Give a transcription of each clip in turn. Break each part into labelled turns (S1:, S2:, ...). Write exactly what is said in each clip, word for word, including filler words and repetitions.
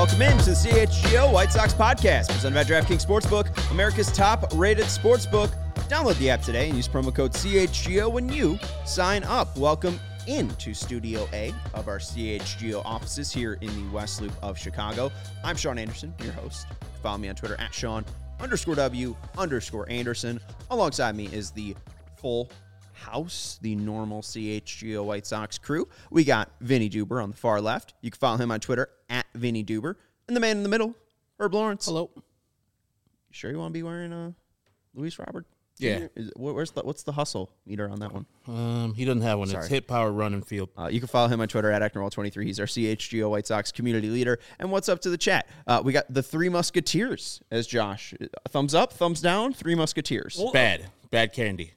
S1: welcome in to the C H G O White Sox podcast, presented by DraftKings Sportsbook, America's top-rated sportsbook. Download the app today and use promo code C H G O when you sign up. Welcome into Studio A of our C H G O offices here in the West Loop of Chicago. I'm Sean Anderson, your host. Follow me on Twitter at Sean underscore W underscore Anderson. Alongside me is the full house, the normal C H G O White Sox crew. We got Vinny Duber on the far left. You can follow him on Twitter at Vinny Duber. And the man in the middle, Herb Lawrence.
S2: Hello.
S1: You sure you want to be wearing a Luis Robert?
S2: Yeah.
S1: Is, where's the, what's the hustle meter on that one?
S2: Um, he doesn't have one.
S1: Sorry.
S2: It's hit, power, run, and field.
S1: Uh, you can follow him on Twitter at Acton twenty-three. He's our C H G O White Sox community leader. And what's up to the chat? Uh, we got the Three Musketeers as Josh. Thumbs up, thumbs down, Three Musketeers.
S2: Well, bad. Bad candy.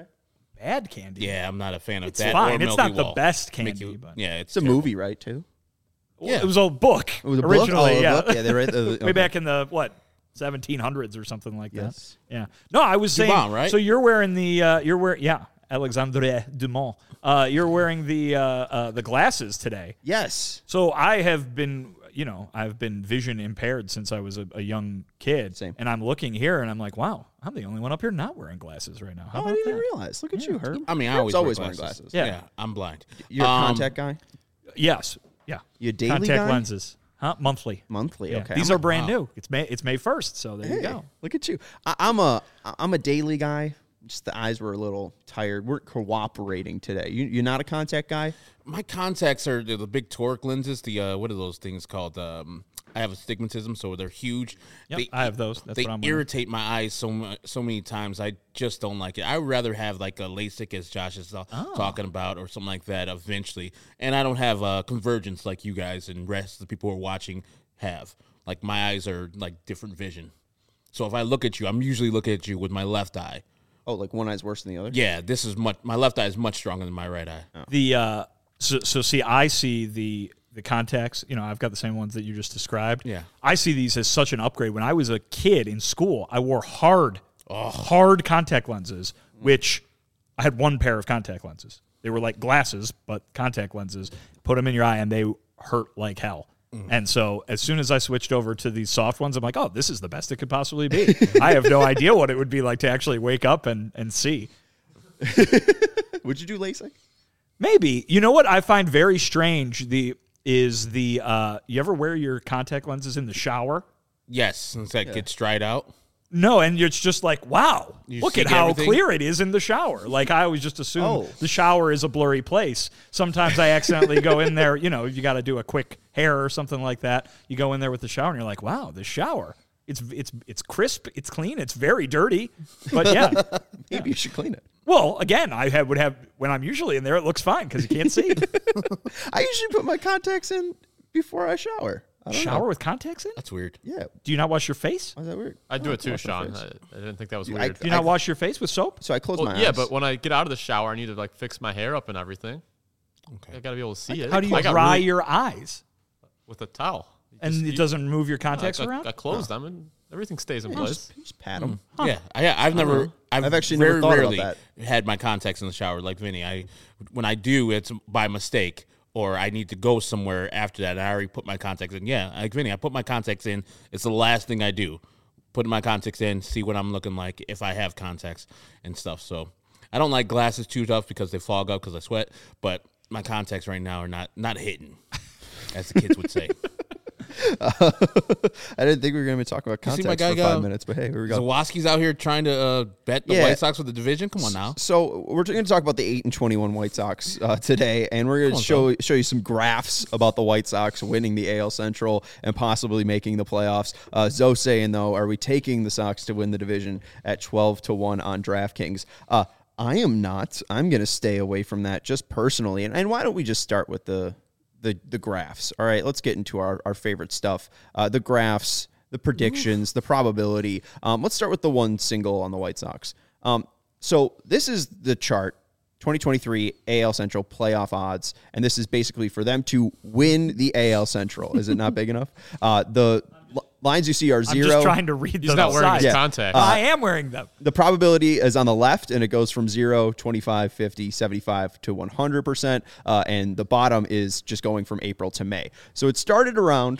S3: Bad candy.
S2: Yeah, I'm not a fan of
S3: It's
S2: that.
S3: fine.
S2: Or
S3: It's
S2: Milky
S3: not the
S2: Wall.
S3: best candy,
S2: Milky-
S3: but-
S2: yeah,
S1: It's
S2: it's
S1: a
S2: terrible.
S1: movie, right, too?
S3: Yeah. It was a book
S1: It was a book?
S3: originally.
S1: Oh, a
S3: yeah.
S1: book? Yeah, they read the-
S3: way
S1: okay.
S3: back in the what seventeen hundreds or something like
S1: Yes.
S3: that. Yeah. No, I was saying.
S2: Dumas, right?
S3: So you're wearing the uh, you're wearing yeah Alexandre Dumas. Uh, you're wearing the uh, uh, the glasses today.
S1: Yes.
S3: So I have been, you know, I've been vision impaired since I was a, a young kid.
S1: Same.
S3: And I'm looking here and I'm like, wow, I'm the only one up here not wearing glasses right now. How
S1: Oh, I
S3: about
S1: didn't
S3: that?
S1: even realize. Look at you, Herb.
S2: I mean, I
S1: Herb's
S2: always,
S1: always
S2: wear
S1: wearing
S2: glasses.
S1: glasses.
S3: Yeah.
S2: Yeah, I'm blind.
S1: You're a
S2: Um,
S1: contact guy?
S3: Yes. Yeah.
S1: You a daily
S3: Contact
S1: guy?
S3: lenses. Huh? Monthly.
S1: Monthly,
S3: Yeah.
S1: okay.
S3: These
S1: I'm
S3: are brand
S2: wow.
S3: new. It's May it's May first, so there you
S1: Hey,
S3: go.
S1: look at you. I, I'm a I'm a daily guy. Just the eyes were a little tired. We're cooperating today. You, you're not a contact guy?
S2: My contacts are the, the big toric lenses. The uh, what are those things called? Um, I have astigmatism, so they're huge.
S3: Yep,
S2: they,
S3: I have those. That's
S2: they
S3: what I'm wearing.
S2: irritate my eyes so mu- so many times. I just don't like it. I would rather have like a LASIK, as Josh is uh,
S3: Oh.
S2: talking about, or something like that eventually. And I don't have uh, convergence like you guys and rest of the people who are watching have. Like my eyes are like different vision. So if I look at you, I'm usually looking at you with my left eye.
S1: Oh, like one eye's worse than the other?
S2: Yeah, this is much. My left eye is much stronger than my right eye.
S1: Oh.
S3: The uh, so, so see, I see the the contacts. You know, I've got the same ones that you just described.
S2: Yeah.
S3: I see these as such an upgrade. When I was a kid in school, I wore hard, hard contact lenses, which I had one pair of contact lenses. They were like glasses, but contact lenses. Put them in your eye, and they hurt like hell. And so as soon as I switched over to these soft ones, I'm like, oh, this is the best it could possibly be. I have no idea what it would be like to actually wake up and, and see.
S1: Would you do LASIK?
S3: Maybe. You know what I find very strange the is the uh, you ever wear your contact lenses in the shower?
S2: Yes, since that gets dried out.
S3: No, and it's just like, wow,
S2: You
S3: look
S2: see
S3: at how
S2: everything?
S3: clear it is in the shower. Like I always just assume
S1: Oh.
S3: the shower is a blurry place. Sometimes I accidentally go in there, you know, you got to do a quick hair or something like that. You go in there with the shower and you're like, wow, the shower. It's it's it's crisp, it's clean, it's very dirty. But yeah.
S1: Maybe you should clean it.
S3: Well, again, I have, would have when I'm usually in there, it looks fine because you can't see.
S1: I usually put my contacts in before I shower. I don't
S3: Shower
S1: know.
S3: with contacts in?
S2: That's weird.
S1: Yeah.
S3: Do you not wash your face?
S1: Why is that weird?
S4: I do
S1: Oh,
S4: it too,
S1: wash my
S4: Sean.
S1: face.
S4: I, I didn't think that was
S1: I-
S4: weird.
S3: Do you not wash your face with soap?
S1: So I close
S4: well,
S1: my
S4: yeah,
S1: eyes.
S4: but when I get out of the shower, I need to like fix my hair up and everything.
S2: Okay.
S4: I gotta be able to see it.
S3: How do you
S4: I got
S3: dry
S4: really-
S3: your eyes?
S4: with a towel? You
S3: And
S4: just-
S3: it
S4: you-
S3: doesn't move your
S4: no,
S3: contacts
S4: I,
S3: around?
S4: I close them and everything stays in
S1: You
S4: place.
S1: just, you just pat them.
S2: Yeah, I, I've never. I've,
S1: I've actually
S2: very
S1: never thought about
S2: rarely
S1: that.
S2: had my contacts in the shower like Vinny. I, when I do, it's by mistake, or I need to go somewhere after that. And I already put my contacts in. Yeah, like Vinny, I put my contacts in. It's the last thing I do. Put my contacts in, see what I'm looking like if I have contacts and stuff. So I don't like glasses too tough because they fog up because I sweat. But my contacts right now are not not hitting, as the kids would say.
S1: Uh, I didn't think we were going to be talking about
S2: You see
S1: contacts
S2: my
S1: for
S2: guy
S1: five
S2: go?
S1: minutes, but hey, here we go.
S2: Zawoski's out here trying to uh, bet the
S1: Yeah.
S2: White Sox with the division. Come on now.
S1: So we're going to talk about the eight and twenty-one White Sox uh, today, and we're going
S2: Come
S1: to
S2: on,
S1: show show you some graphs about the White Sox winning the A L Central and possibly making the playoffs. Uh, Zoe saying though, are we taking the Sox to win the division at twelve to one on DraftKings? Uh, I am not. I'm going to stay away from that just personally. And, and why don't we just start with the the the graphs? All right, let's get into our, our favorite stuff. Uh, the graphs, the predictions, the probability. Um, let's start with the one single on the White Sox. Um, so this is the chart, twenty twenty-three A L Central playoff odds, and this is basically for them to win the A L Central. Is it not big enough? Uh, the l- lines you see are
S3: I'm
S1: zero.
S3: just trying to read
S4: He's
S3: the
S4: not wearing
S3: side.
S4: his
S1: Yeah.
S4: contacts.
S3: I am wearing them.
S1: The probability is on the left, and it goes from zero, twenty-five, fifty, seventy-five to one hundred percent. Uh, and the bottom is just going from April to May. So it started around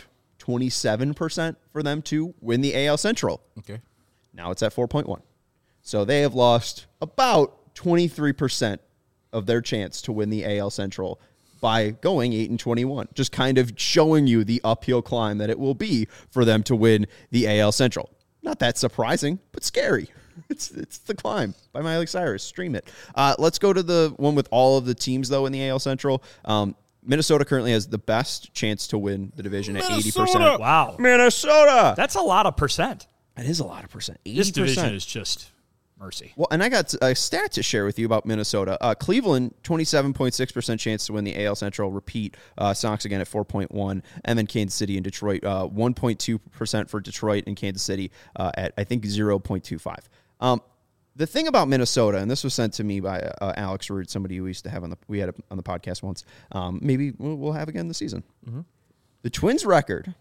S1: twenty-seven percent for them to win the A L Central.
S2: Okay.
S1: Now it's at four point one. So they have lost about twenty-three percent of their chance to win the A L Central by going eight and twenty-one. Just kind of showing you the uphill climb that it will be for them to win the A L Central. Not that surprising, but scary. It's it's The Climb by Miley Cyrus. Stream it. Uh, let's go to the one with all of the teams, though, in the A L Central. Um, Minnesota currently has the best chance to win the division at eighty percent.
S3: Wow.
S1: Minnesota!
S3: That's a lot of percent.
S1: That is a lot of percent. eighty percent.
S3: This division is just mercy.
S1: Well, and I got a stat to share with you about Minnesota. Uh, Cleveland, twenty-seven point six percent chance to win the A L Central. Repeat, uh, Sox again at four point one. And then Kansas City and Detroit, uh, one point two percent for Detroit and Kansas City uh, at, I think, zero point two five. Um, the thing about Minnesota, and this was sent to me by uh, Alex Root, somebody we used to have on the we had on the podcast once. Um, maybe we'll, we'll have again this season. Mm-hmm. The Twins record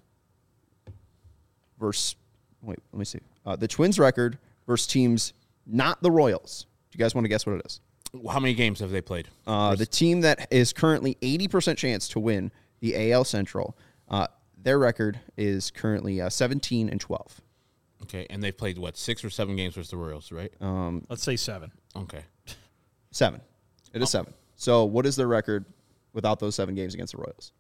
S1: versus wait, let me see. Uh, the Twins record versus teams not the Royals. Do you guys want to guess what it is?
S2: How many games have they played?
S1: Uh, the team that is currently eighty percent chance to win the A L Central. Uh, their record is currently uh, seventeen and twelve.
S2: Okay, and they've played, what, six or seven games versus the Royals, right?
S1: Um,
S3: Let's say seven.
S2: Okay.
S1: Seven. It is seven. So what is their record without those seven games against the Royals?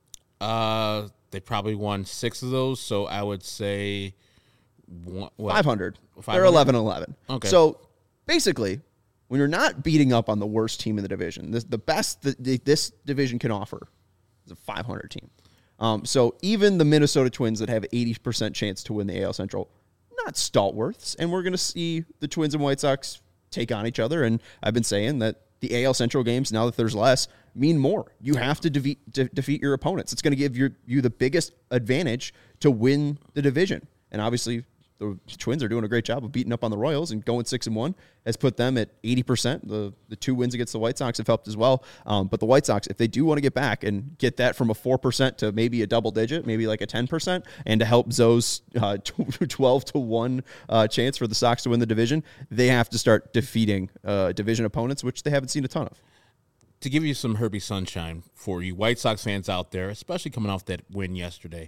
S2: Uh, they probably won six of those, so I would say one, what?
S1: five hundred.
S2: five
S1: They're
S2: hundred?
S1: eleven and eleven.
S2: Okay.
S1: So basically, when you're not beating up on the worst team in the division, this, the best that the, this division can offer is a five hundred team. Um, so even the Minnesota Twins that have eighty percent chance to win the A L Central, not stalwarts, and we're going to see the Twins and White Sox take on each other. And I've been saying that the A L Central games, now that there's less, mean more. You have to defeat, de- defeat your opponents. It's going to give your, you the biggest advantage to win the division. And obviously, the Twins are doing a great job of beating up on the Royals, and going six and one has put them at eighty percent. The the two wins against the White Sox have helped as well. Um, but the White Sox, if they do want to get back and get that from a four percent to maybe a double digit, maybe like a ten percent, and to help Zoe's uh, twelve to one uh, chance for the Sox to win the division, they have to start defeating uh, division opponents, which they haven't seen a ton of.
S2: To give you some Herbie Sunshine for you White Sox fans out there, especially coming off that win yesterday,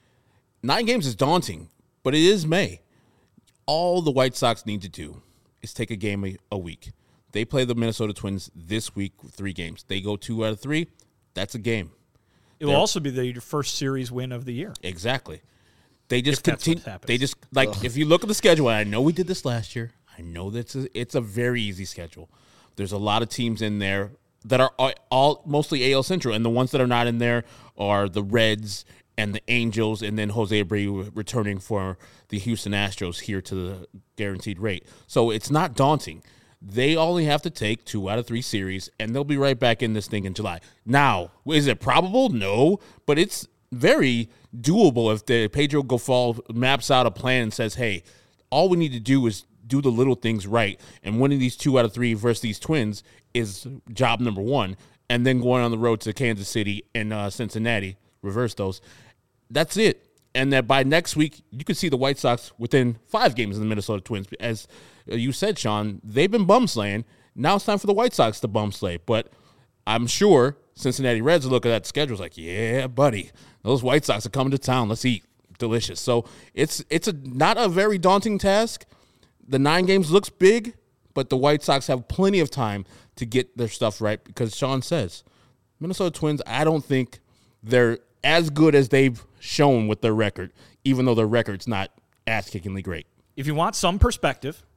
S2: nine games is daunting, but it is May. All the White Sox need to do is take a game a, a week. They play the Minnesota Twins this week, three games. They go two out of three. That's a game.
S3: It will also be the first series win of the year.
S2: Exactly. They just
S3: If that's
S2: continue.
S3: what happens.
S2: They just like Ugh. If you look at the schedule, and I know we did this last year. I know that it's, it's a very easy schedule. There's a lot of teams in there that are all, all mostly A L Central, and the ones that are not in there are the Reds and the Angels, and then Jose Abreu returning for the Houston Astros here to the guaranteed rate. So it's not daunting. They only have to take two out of three series, and they'll be right back in this thing in July. Now, is it probable? No, but it's very doable if the Pedro Gofal maps out a plan and says, hey, all we need to do is do the little things right, and winning these two out of three versus these Twins is job number one, and then going on the road to Kansas City and uh, Cincinnati, reverse those. That's it. And that by next week, you could see the White Sox within five games of the Minnesota Twins. As you said, Sean, they've been bum slaying. Now it's time for the White Sox to bum slay. But I'm sure Cincinnati Reds will look at that schedule like, yeah, buddy, those White Sox are coming to town. Let's eat. Delicious. So it's it's a not a very daunting task. The nine games looks big, but the White Sox have plenty of time to get their stuff right because Sean says, Minnesota Twins, I don't think they're as good as they've shown with their record, even though their record's not ass-kickingly great.
S3: If you want some perspective,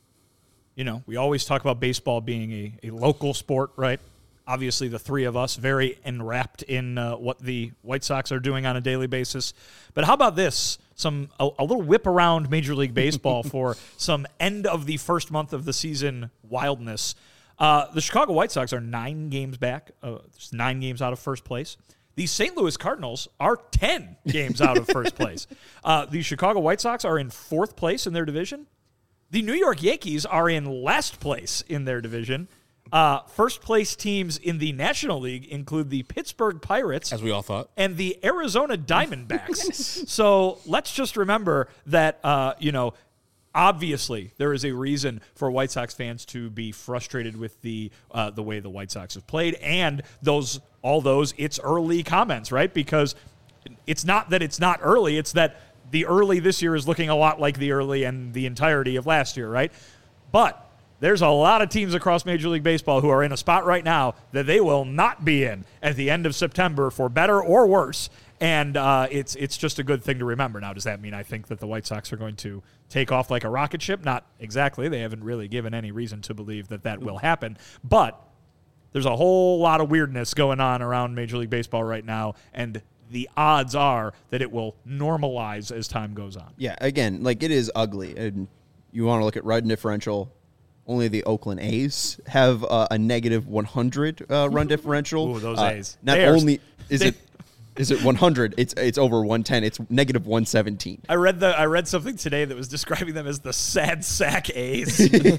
S3: you know, we always talk about baseball being a, a local sport, right? Obviously, the three of us very enwrapped in uh, what the White Sox are doing on a daily basis. But how about this? Some a, a little whip around Major League Baseball for some end of the first month of the season wildness. Uh, the Chicago White Sox are nine games back, uh, nine games out of first place. The Saint Louis Cardinals are ten games out of first place. Uh, the Chicago White Sox are in fourth place in their division. The New York Yankees are in last place in their division. Uh, first place teams in the National League include the Pittsburgh Pirates,
S2: as we all thought,
S3: and the Arizona Diamondbacks. So let's just remember that, uh, you know, obviously there is a reason for White Sox fans to be frustrated with the uh, the way the White Sox have played and those all those it's early comments, right? Because it's not that it's not early. It's that the early this year is looking a lot like the early and the entirety of last year, right? But there's a lot of teams across Major League Baseball who are in a spot right now that they will not be in at the end of September for better or worse. And uh, it's it's just a good thing to remember. Now, does that mean I think that the White Sox are going to take off like a rocket ship? Not exactly. They haven't really given any reason to believe that that will happen. But there's a whole lot of weirdness going on around Major League Baseball right now, and the odds are that it will normalize as time goes on.
S1: Yeah, again, like it is ugly. And you want to look at run differential. Only the Oakland A's have uh, a negative one hundred uh, run differential.
S3: Ooh, those
S1: uh,
S3: A's.
S1: Not
S3: They are-
S1: only is
S3: they-
S1: it is it one hundred, it's it's over one ten. It's negative one seventeen.
S3: I read the I read something today that was describing them as the sad sack A's.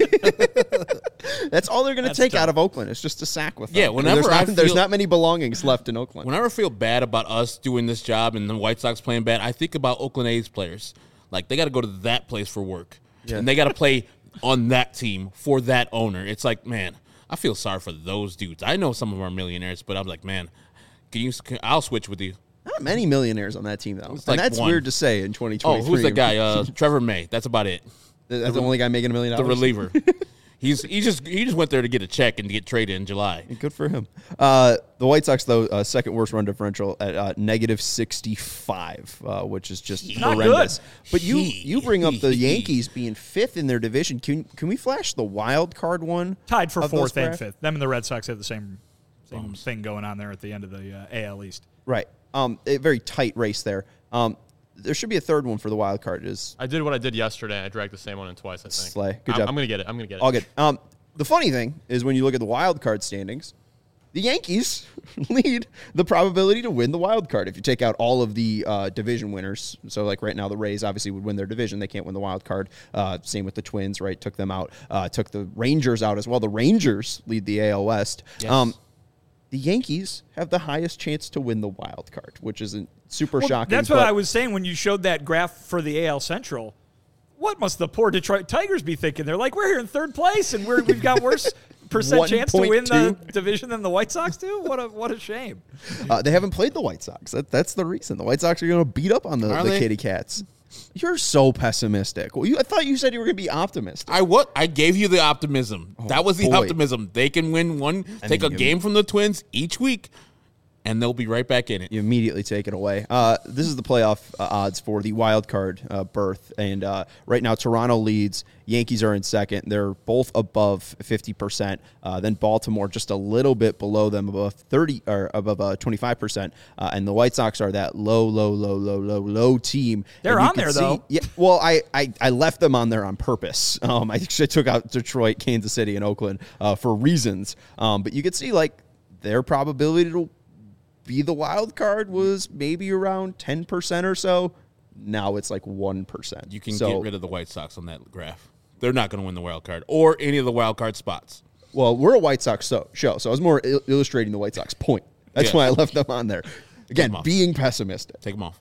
S1: That's all they're going to
S3: That's
S1: take
S3: tough.
S1: out of Oakland. It's just a sack with them.
S2: Yeah, whenever
S1: there's not,
S2: I
S1: there's
S2: feel-
S1: not many belongings left in Oakland.
S2: Whenever I feel bad about us doing this job and the White Sox playing bad, I think about Oakland A's players. Like, they got to go to that place for work.
S1: Yeah.
S2: And they got to play on that team for that owner. It's like, man, I feel sorry for those dudes. I know some of them are millionaires, but I'm like, man, can you? Can, I'll switch with you.
S1: Not many millionaires on that team, though.
S2: It's
S1: And
S2: like
S1: that's
S2: one.
S1: weird to say in twenty
S2: Oh,
S1: twenty-three.
S2: who's the guy? Uh, Trevor May. That's about it.
S1: That's the only guy making a million
S2: The
S1: dollars?
S2: reliever. He's he just he just went there to get a check and to get traded in July.
S1: Good for him. Uh, the White Sox, though, uh, second worst run differential at uh, negative sixty-five, uh, which is just
S3: Not
S1: horrendous.
S3: good.
S1: But you you bring up the Yankees being fifth in their division. Can can we flash the wild card one?
S3: Tied for
S1: of those
S3: fourth and
S1: graph?
S3: fifth. Them and the Red Sox have the same same thing going on there at the end of the uh, A L East.
S1: Right. Um, a very tight race there. Um, there should be a third one for the wild card. Is
S4: I did what I did yesterday. I dragged the same one in twice, I think.
S1: Slay. Good
S4: I'm,
S1: job.
S4: I'm going to get it. I'm going to get it.
S1: all good. Um, the funny thing is when you look at the wild card standings, the Yankees lead the probability to win the wild card. If you take out all of the uh, division winners, so like right now the Rays obviously would win their division. They can't win the wild card. Uh, same with the Twins, right? Took them out. Uh, took the Rangers out as well. The Rangers lead the A L West.
S2: Yes.
S1: Um, the Yankees have the highest chance to win the wild card, which isn't super
S3: Well,
S1: shocking.
S3: that's what
S1: but-
S3: I was saying when you showed that graph for the A L Central. What must the poor Detroit Tigers be thinking? They're like, we're here in third place, and we're, we've got worse percent chance to win the division than the White Sox do? What a what a shame.
S1: Uh, they haven't played the White Sox. That, that's the reason. The White Sox are going to beat up on the,
S2: Are
S1: the
S2: they?
S1: Kitty Cats. You're so pessimistic. Well, you, I thought you said you were going to be optimistic.
S2: I what? I gave you the optimism. that was the
S1: boy.
S2: optimism. They can win one, take
S1: then
S2: a
S1: you-
S2: game from the Twins each week, and they'll be right back in it.
S1: You immediately take it away. Uh, this is the playoff uh, odds for the wild card uh, berth, and uh, right now Toronto leads. Yankees are in second. They're both above fifty percent. Uh, then Baltimore just a little bit below them, above thirty or above uh, twenty-five percent. Uh, and the White Sox are that low, low, low, low, low, low team.
S3: They're
S1: And you
S3: on
S1: can
S3: there,
S1: see-
S3: though.
S1: Yeah. Well, I, I, I left them on there on purpose. Um, I actually took out Detroit, Kansas City, and Oakland uh, for reasons. Um, but you could see like their probability to be the wild card was maybe around ten percent or so. Now it's like one percent.
S2: You can
S1: so,
S2: get rid of the White Sox on that graph. They're not going to win the wild card or any of the wild card spots.
S1: Well, we're a White Sox so, show, so I was more il- illustrating the White Sox point. That's
S2: Yeah.
S1: why I left them on there. Again,
S2: them off.
S1: being pessimistic.
S2: Take them off.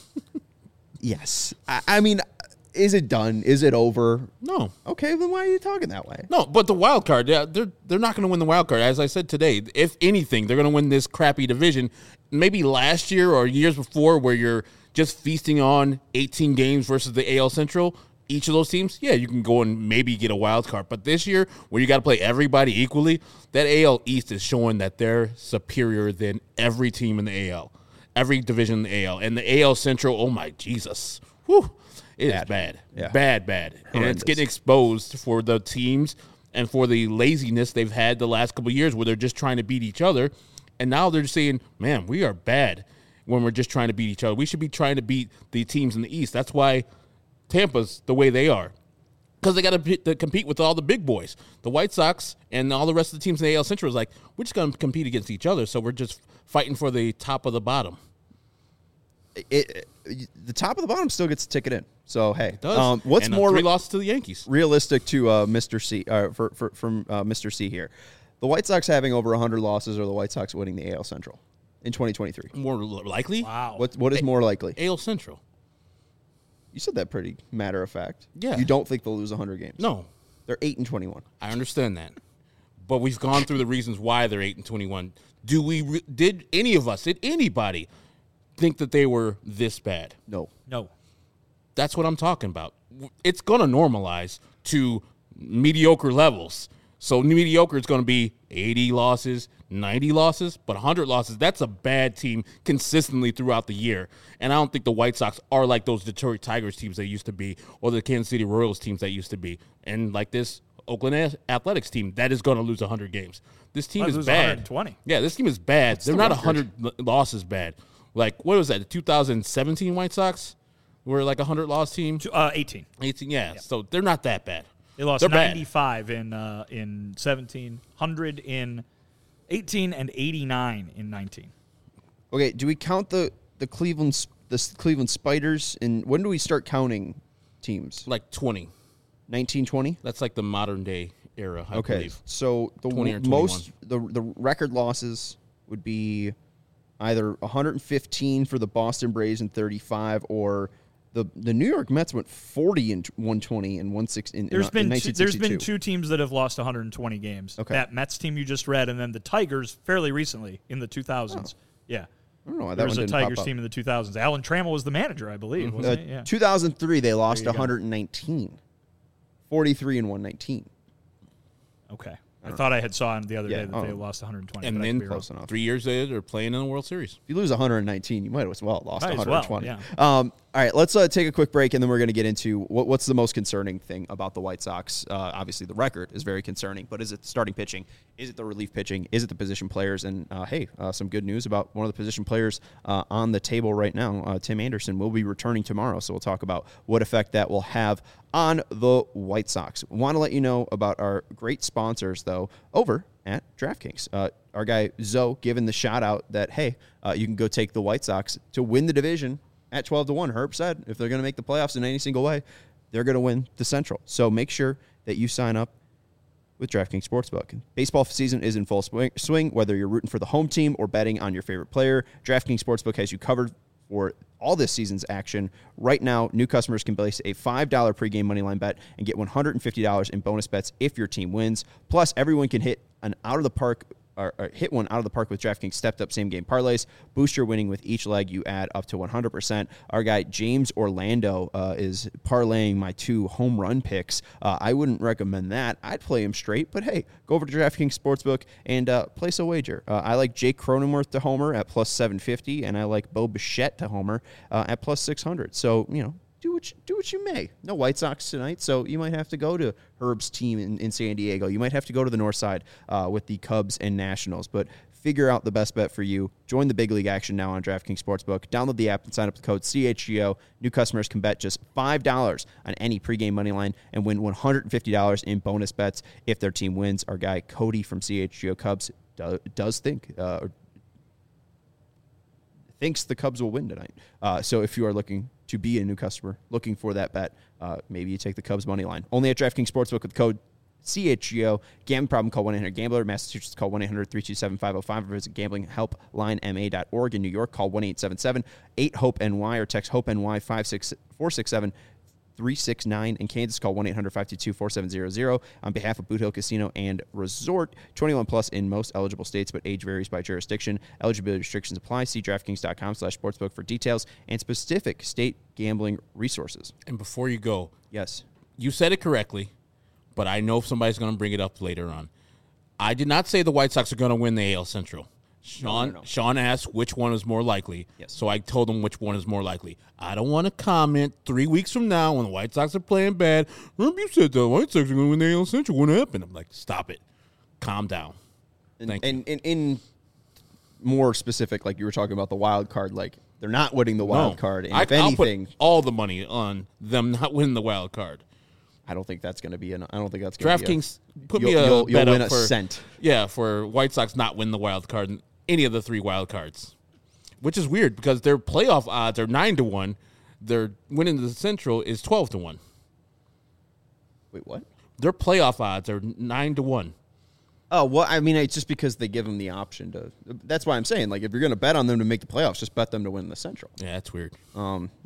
S1: Yes. I, I mean, is it done? Is it over?
S2: No,
S1: Okay, then why are you talking that way?
S2: no, but the wild card, yeah, they're they're not going to win the wild card. As I said today, if anything, they're going to win this crappy division. Maybe last year or years before, where you're just feasting on eighteen games versus the A L Central. Each of those teams, yeah, you can go and maybe get a wild card. But this year, where you got to play everybody equally, that A L East is showing that they're superior than every team in the A L, every division in the A L, and the A L Central. Oh my Jesus, whew, it is
S1: Bad.
S2: bad,
S1: Yeah.
S2: bad, bad, and
S1: Horrendous.
S2: it's getting exposed for the teams and for the laziness they've had the last couple of years, where they're just trying to beat each other, and now they're just saying, "Man, we are bad." When we're just trying to beat each other, we should be trying to beat the teams in the East. That's why Tampa's the way they are, because they got to compete with all the big boys. The White Sox and all the rest of the teams in the A L Central is like, we're just going to compete against each other, so we're just fighting for the top of the bottom.
S1: It, it- the top of the bottom still gets a ticket in. So hey,
S2: Does
S1: um, what's
S2: and, uh,
S1: more
S2: three losses to the Yankees?
S1: realistic to uh, Mister C uh, for, for from uh, Mister C here? The White Sox having over one hundred losses, or the White Sox winning the A L Central in twenty twenty-three?
S2: More likely,
S3: Wow.
S1: What what is more likely?
S2: A L Central.
S1: You said that pretty matter of fact.
S2: Yeah.
S1: You don't think they'll lose one hundred games?
S2: No,
S1: They're eight and twenty-one.
S2: I understand that, but we've gone through the reasons why they're eight and twenty-one. Do we? Re- did any of us? Did anybody think that they were this bad.
S1: No.
S3: No.
S2: That's what I'm talking about. It's going to normalize to mediocre levels. So mediocre is going to be eighty losses, ninety losses, but one hundred losses. That's a bad team consistently throughout the year. And I don't think the White Sox are like those Detroit Tigers teams they used to be or the Kansas City Royals teams that used to be. And like this Oakland Athletics team, that is going to lose one hundred games. This team
S3: Might
S2: is
S3: lose
S2: bad.
S3: one hundred twenty.
S2: Yeah, this team is bad.
S1: What's
S2: They're
S1: the
S2: not
S1: record?
S2: one hundred losses bad. Like, what was that, the two thousand seventeen White Sox? Were like a one hundred loss team?
S3: Uh, eighteen.
S2: eighteen, yeah. So they're not that bad.
S3: They lost
S2: They're bad.
S3: ninety-five in uh, in seventeen, one hundred in eighteen, and eighty-nine in nineteen.
S1: Okay, do we count the the Cleveland S- the S- Cleveland Spiders? And when do we start counting teams?
S2: Like twenty.
S1: nineteen twenty?
S2: That's like the modern day era, I
S1: Okay,
S2: believe.
S1: so the
S2: twenty or
S1: w- most the the record losses would be either one hundred fifteen for the Boston Braves and thirty-five, or the the New York Mets went forty and one hundred twenty and one sixty in,
S3: There's
S1: in,
S3: been
S1: in
S3: two, there's been
S1: nineteen sixty-two.
S3: two teams that have lost one hundred twenty games.
S1: Okay.
S3: That Mets team you just read, and then the Tigers fairly recently in the two thousands. Yeah.
S1: I don't know why that
S3: There
S1: one
S3: was a
S1: didn't pop
S3: Tigers
S1: up.
S3: team in the two thousands. Alan Trammell was the manager, I believe,
S1: Uh,
S3: wasn't he? Yeah.
S1: two thousand three, they lost
S3: There you go.
S1: one hundred nineteen. forty-three and one nineteen.
S3: Okay. I, thought I had saw him the other
S1: Yeah,
S3: day that
S1: oh.
S3: they lost one hundred twenty.
S2: And
S3: but I
S2: then
S3: could be wrong.
S1: close enough.
S2: three years later, they're playing in the World Series.
S1: If you lose one hundred nineteen, you might as well have lost
S3: Might as
S1: one
S3: well,
S1: hundred twenty.
S3: yeah.
S1: Um, all right, let's uh, take a quick break, and then we're going to get into what, what's the most concerning thing about the White Sox. Uh, obviously, the record is very concerning, but is it the starting pitching? Is it the relief pitching? Is it the position players? And, uh, hey, uh, some good news about one of the position players uh, on the table right now. Uh, Tim Anderson will be returning tomorrow, so we'll talk about what effect that will have on the White Sox. Want to let you know about our great sponsors, though, over at DraftKings. Uh, our guy Zoe giving the shout out that, hey, uh, you can go take the White Sox to win the division at twelve to one. Herb said if they're going to make the playoffs in any single way, they're going to win the Central. So make sure that you sign up with DraftKings Sportsbook. Baseball season is in full swing, swing, whether you're rooting for the home team or betting on your favorite player. DraftKings Sportsbook has you covered for all this season's action. Right now, new customers can place a five dollar pregame moneyline bet and get one hundred fifty dollars in bonus bets if your team wins. Plus, everyone can hit an out-of-the-park Or, or hit one out of the park with DraftKings stepped-up same-game parlays. Boost your winning with each leg you add up to one hundred percent. Our guy James Orlando uh, is parlaying my two home run picks. Uh, I wouldn't recommend that. I'd play him straight, but hey, go over to DraftKings Sportsbook and uh, place a wager. Uh, I like Jake Cronenworth to homer at plus seven fifty, and I like Bo Bichette to homer uh, at plus six hundred. So, you know, do what you, do what you may. No White Sox tonight, so you might have to go to Herb's team in, in San Diego. You might have to go to the north side uh, with the Cubs and Nationals, but figure out the best bet for you. Join the big league action now on DraftKings Sportsbook. Download the app and sign up with the code C H G O. New customers can bet just five dollars on any pregame money line and win one hundred fifty dollars in bonus bets if their team wins. Our guy Cody from C H G O Cubs do, does think uh, or thinks the Cubs will win tonight. Uh, so if you are looking to be a new customer, looking for that bet, uh, maybe you take the Cubs money line. Only at DraftKings Sportsbook with code C H G O. Gambling problem, call one eight hundred gambler. Massachusetts, call one eight hundred three two seven five oh five or visit gambling help line m a dot org. In New York, call one eight seven seven eight hope N Y or text HOPE-NY five six four six seven three six nine. In Kansas, call one eight hundred five two two four seven zero zero. On behalf of Boot Hill Casino and Resort, twenty-one plus in most eligible states, but age varies by jurisdiction. Eligibility restrictions apply. See DraftKings.com slash sportsbook for details and specific state gambling resources.
S2: And before you go,
S1: Yes.
S2: you said it correctly, but I know somebody's going to bring it up later on. I did not say the White Sox are going to win the A L Central. Sean
S1: no, no.
S2: Sean asked which one is more likely,
S1: Yes.
S2: so I told him which one is more likely. I don't want to comment three weeks from now when the White Sox are playing bad. Remember you said the White Sox are going to win the A L Central. What happened? I'm like, stop it. Calm down.
S1: And,
S2: Thank you.
S1: and, and in more specific, like you were talking about the wild card, like they're not winning the wild
S2: No.
S1: card. And
S2: I,
S1: if
S2: I'll put
S1: anything,
S2: all the money on them not winning the wild card.
S1: I don't think that's going to be an. I don't think that's going to be.
S2: DraftKings, put
S1: you'll-
S2: me a
S1: you'll- you'll
S2: bet
S1: win
S2: up
S1: a
S2: for
S1: cent.
S2: Yeah, for White Sox not win the wild card in any of the three wild cards, which is weird because their playoff odds are nine to one. Their winning the Central is twelve to one.
S1: Wait, what?
S2: Their playoff odds are nine to one.
S1: Oh, well, I mean, it's just because they give them the option to. That's why I'm saying, like, if you're going to bet on them to make the playoffs, just bet them to win the Central.
S2: Yeah, that's weird.
S1: Um,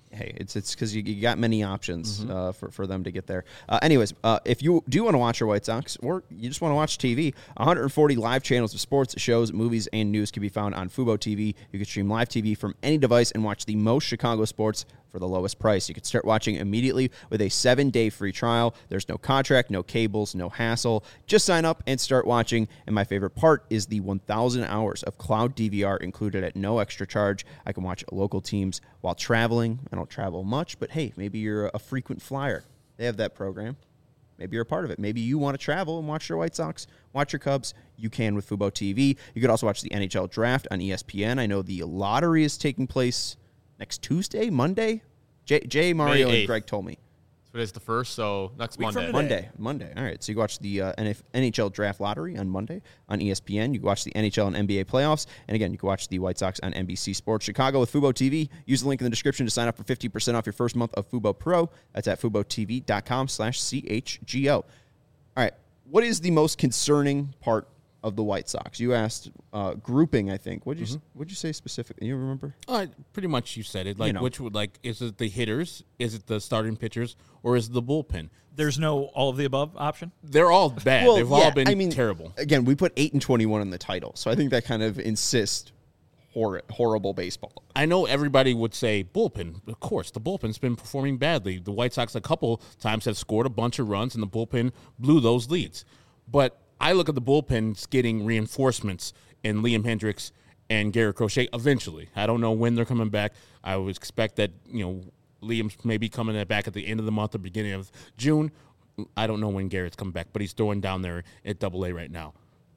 S1: hey, it's it's because you, you got many options mm-hmm. uh, for, for them to get there. Uh, anyways, uh, if you do want to watch your White Sox or you just want to watch T V, one hundred forty live channels of sports, shows, movies, and news can be found on Fubo T V. You can stream live T V from any device and watch the most Chicago sports for the lowest price. You can start watching immediately with a seven-day free trial. There's no contract, no cables, no hassle. Just sign up and start watching. And my favorite part is the one thousand hours of cloud D V R included at no extra charge. I can watch local teams while traveling. I don't travel much, but hey, maybe you're a frequent flyer. They have that program. Maybe you're a part of it. Maybe you want to travel and watch your White Sox, watch your Cubs. You can with Fubo T V. You could also watch the N H L draft on E S P N. I know the lottery is taking place next Tuesday, Monday. Jay, Jay Mario, and Greg told me.
S4: So it's the first, so next
S3: Week
S4: Monday.
S1: Monday. Monday. All right. So you can watch the uh, N H L draft lottery on Monday on E S P N. You can watch the N H L and N B A playoffs. And again, you can watch the White Sox on N B C Sports Chicago with Fubo T V. Use the link in the description to sign up for fifty percent off your first month of Fubo Pro. That's at FuboTV.com slash CHGO. All right. What is the most concerning part of the White Sox? You asked uh, grouping, I think. What did you mm-hmm. What'd you say specifically? You remember?
S2: Uh, pretty much you said it. Like,
S1: you know.
S2: which would, like, is it the hitters? Is it the starting pitchers? Or is it the bullpen?
S3: There's no all of the above option?
S2: They're all bad.
S1: Well,
S2: They've
S1: yeah,
S2: all been
S1: I mean,
S2: terrible.
S1: Again, we put eight and twenty-one in the title. So I think that kind of insists hor- horrible baseball.
S2: I know everybody would say bullpen. Of course, the bullpen's been performing badly. The White Sox a couple times have scored a bunch of runs, and the bullpen blew those leads. But I look at the bullpens getting reinforcements in Liam Hendriks and Garrett Crochet eventually. I don't know when they're coming back. I would expect that, you know, Liam's maybe coming back at the end of the month or beginning of June. I don't know when Garrett's coming back, but he's throwing down there at Double A right now.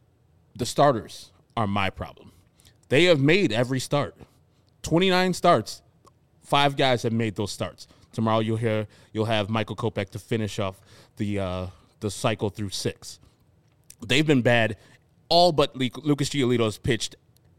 S2: The starters are my problem. They have made every start. twenty-nine starts. Five guys have made those starts. Tomorrow you'll hear you'll have Michael Kopech to finish off the uh, the cycle through six. They've been bad. All but Lucas Giolito has pitched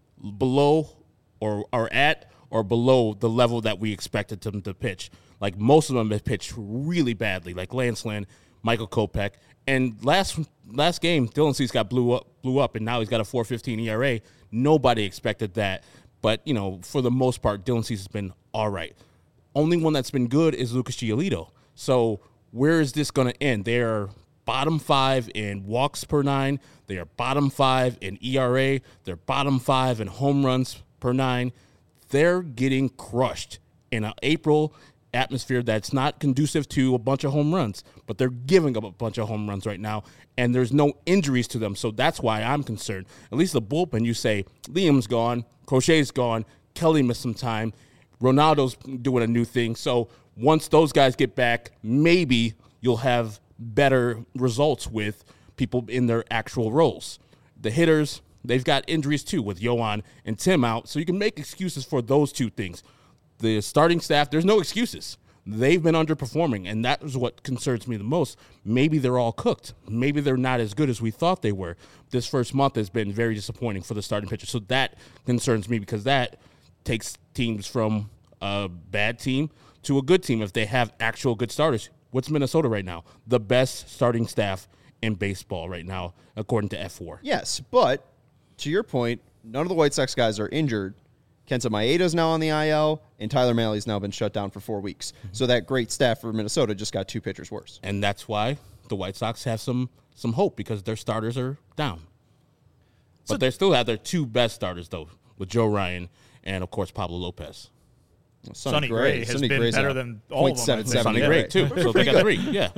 S2: below or, or at or below the level that we expected them to pitch. Like, most of them have pitched really badly, like Lance Lynn, Michael Kopech. And last last game, Dylan Cease got blew up, blew up, and now he's got a four fifteen E R A. Nobody expected that. But, you know, for the most part, Dylan Cease has been all right. Only one that's been good is Lucas Giolito. So where is this going to end? They're bottom five in walks per nine. They are bottom five in E R A. They're bottom five in home runs per nine. They're getting crushed in an April atmosphere that's not conducive to a bunch of home runs, but they're giving up a bunch of home runs right now, and there's no injuries to them, so that's why I'm concerned. At least the bullpen, you say, Liam's gone, Crochet's gone, Kelly missed some time, Ronaldo's doing a new thing, so once those guys get back, maybe you'll have better results with people in their actual roles. The hitters, they've got injuries too with Yohan and Tim out, so you can make excuses for those two things. The starting staff, there's no excuses. They've been underperforming, and that is what concerns me the most. Maybe they're all cooked. Maybe they're not as good as we thought they were. This first month has been very disappointing for the starting pitcher, so that concerns me because that takes teams from a bad team to a good team if they have actual good starters. What's Minnesota right now? The best starting staff in baseball right now, according to F four.
S1: Yes, but to your point, none of the White Sox guys are injured. Kenta Maeda's now on the I L, and Tyler Maley's now been shut down for four weeks. Mm-hmm. So that great staff for Minnesota just got two pitchers worse.
S2: And that's why the White Sox have some some hope because their starters are down. But so, they still have their two best starters, though, with Joe Ryan and, of course, Pablo Lopez.
S1: Well,
S3: Sonny, Sonny Gray, Gray has Sonny been Gray's better than all of them.
S2: Sonny Gray, too. So they got three, yeah.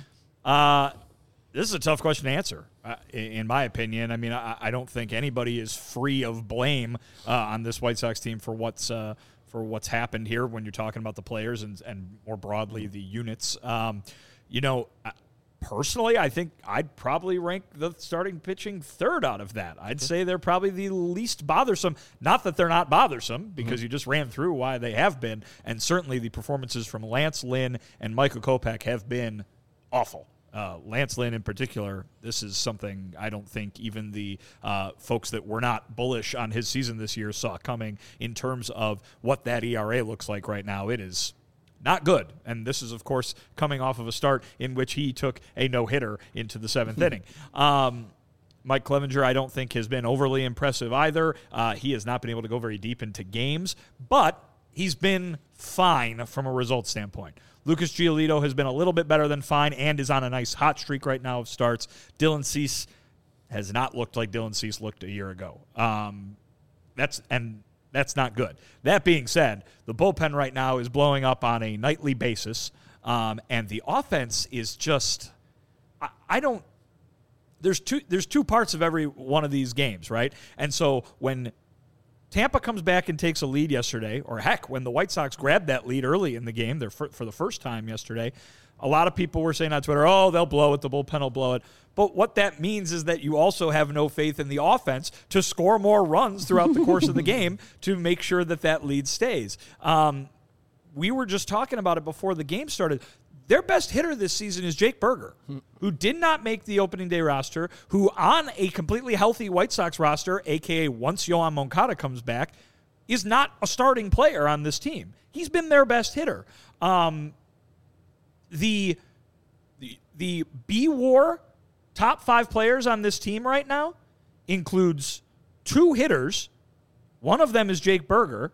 S3: Uh, this is a tough question to answer, uh, in my opinion. I mean, I, I don't think anybody is free of blame uh, on this White Sox team for what's uh, for what's happened here when you're talking about the players and, and more broadly the units. Um, you know, personally, I think I'd probably rank the starting pitching third out of that. I'd say they're probably the least bothersome. Not that they're not bothersome, because mm-hmm. you just ran through why they have been, and certainly the performances from Lance Lynn and Michael Kopech have been awful. Uh, Lance Lynn in particular, this is something I don't think even the uh, folks that were not bullish on his season this year saw coming in terms of what that E R A looks like right now. It is not good. And this is, of course, coming off of a start in which he took a no-hitter into the seventh inning. Um, Mike Clevenger, I don't think, has been overly impressive either. Uh, he has not been able to go very deep into games, but he's been fine from a result standpoint. Lucas Giolito has been a little bit better than fine and is on a nice hot streak right now of starts. Dylan Cease has not looked like Dylan Cease looked a year ago. Um, that's and that's not good. That being said, the bullpen right now is blowing up on a nightly basis, um, and the offense is just I, I don't. There's two. There's two parts of every one of these games, right? And so when Tampa comes back and takes a lead yesterday, or heck, when the White Sox grabbed that lead early in the game, they're for, for the first time yesterday, a lot of people were saying on Twitter, oh, they'll blow it, the bullpen will blow it. But what that means is that you also have no faith in the offense to score more runs throughout the course of the game to make sure that that lead stays. Um, we were just talking about it before the game started. Their best hitter this season is Jake Berger, who did not make the opening day roster, who on a completely healthy White Sox roster, a k a once Yohan Moncada comes back, is not a starting player on this team. He's been their best hitter. Um, the, the, the B-War top five players on this team right now includes two hitters. One of them is Jake Berger.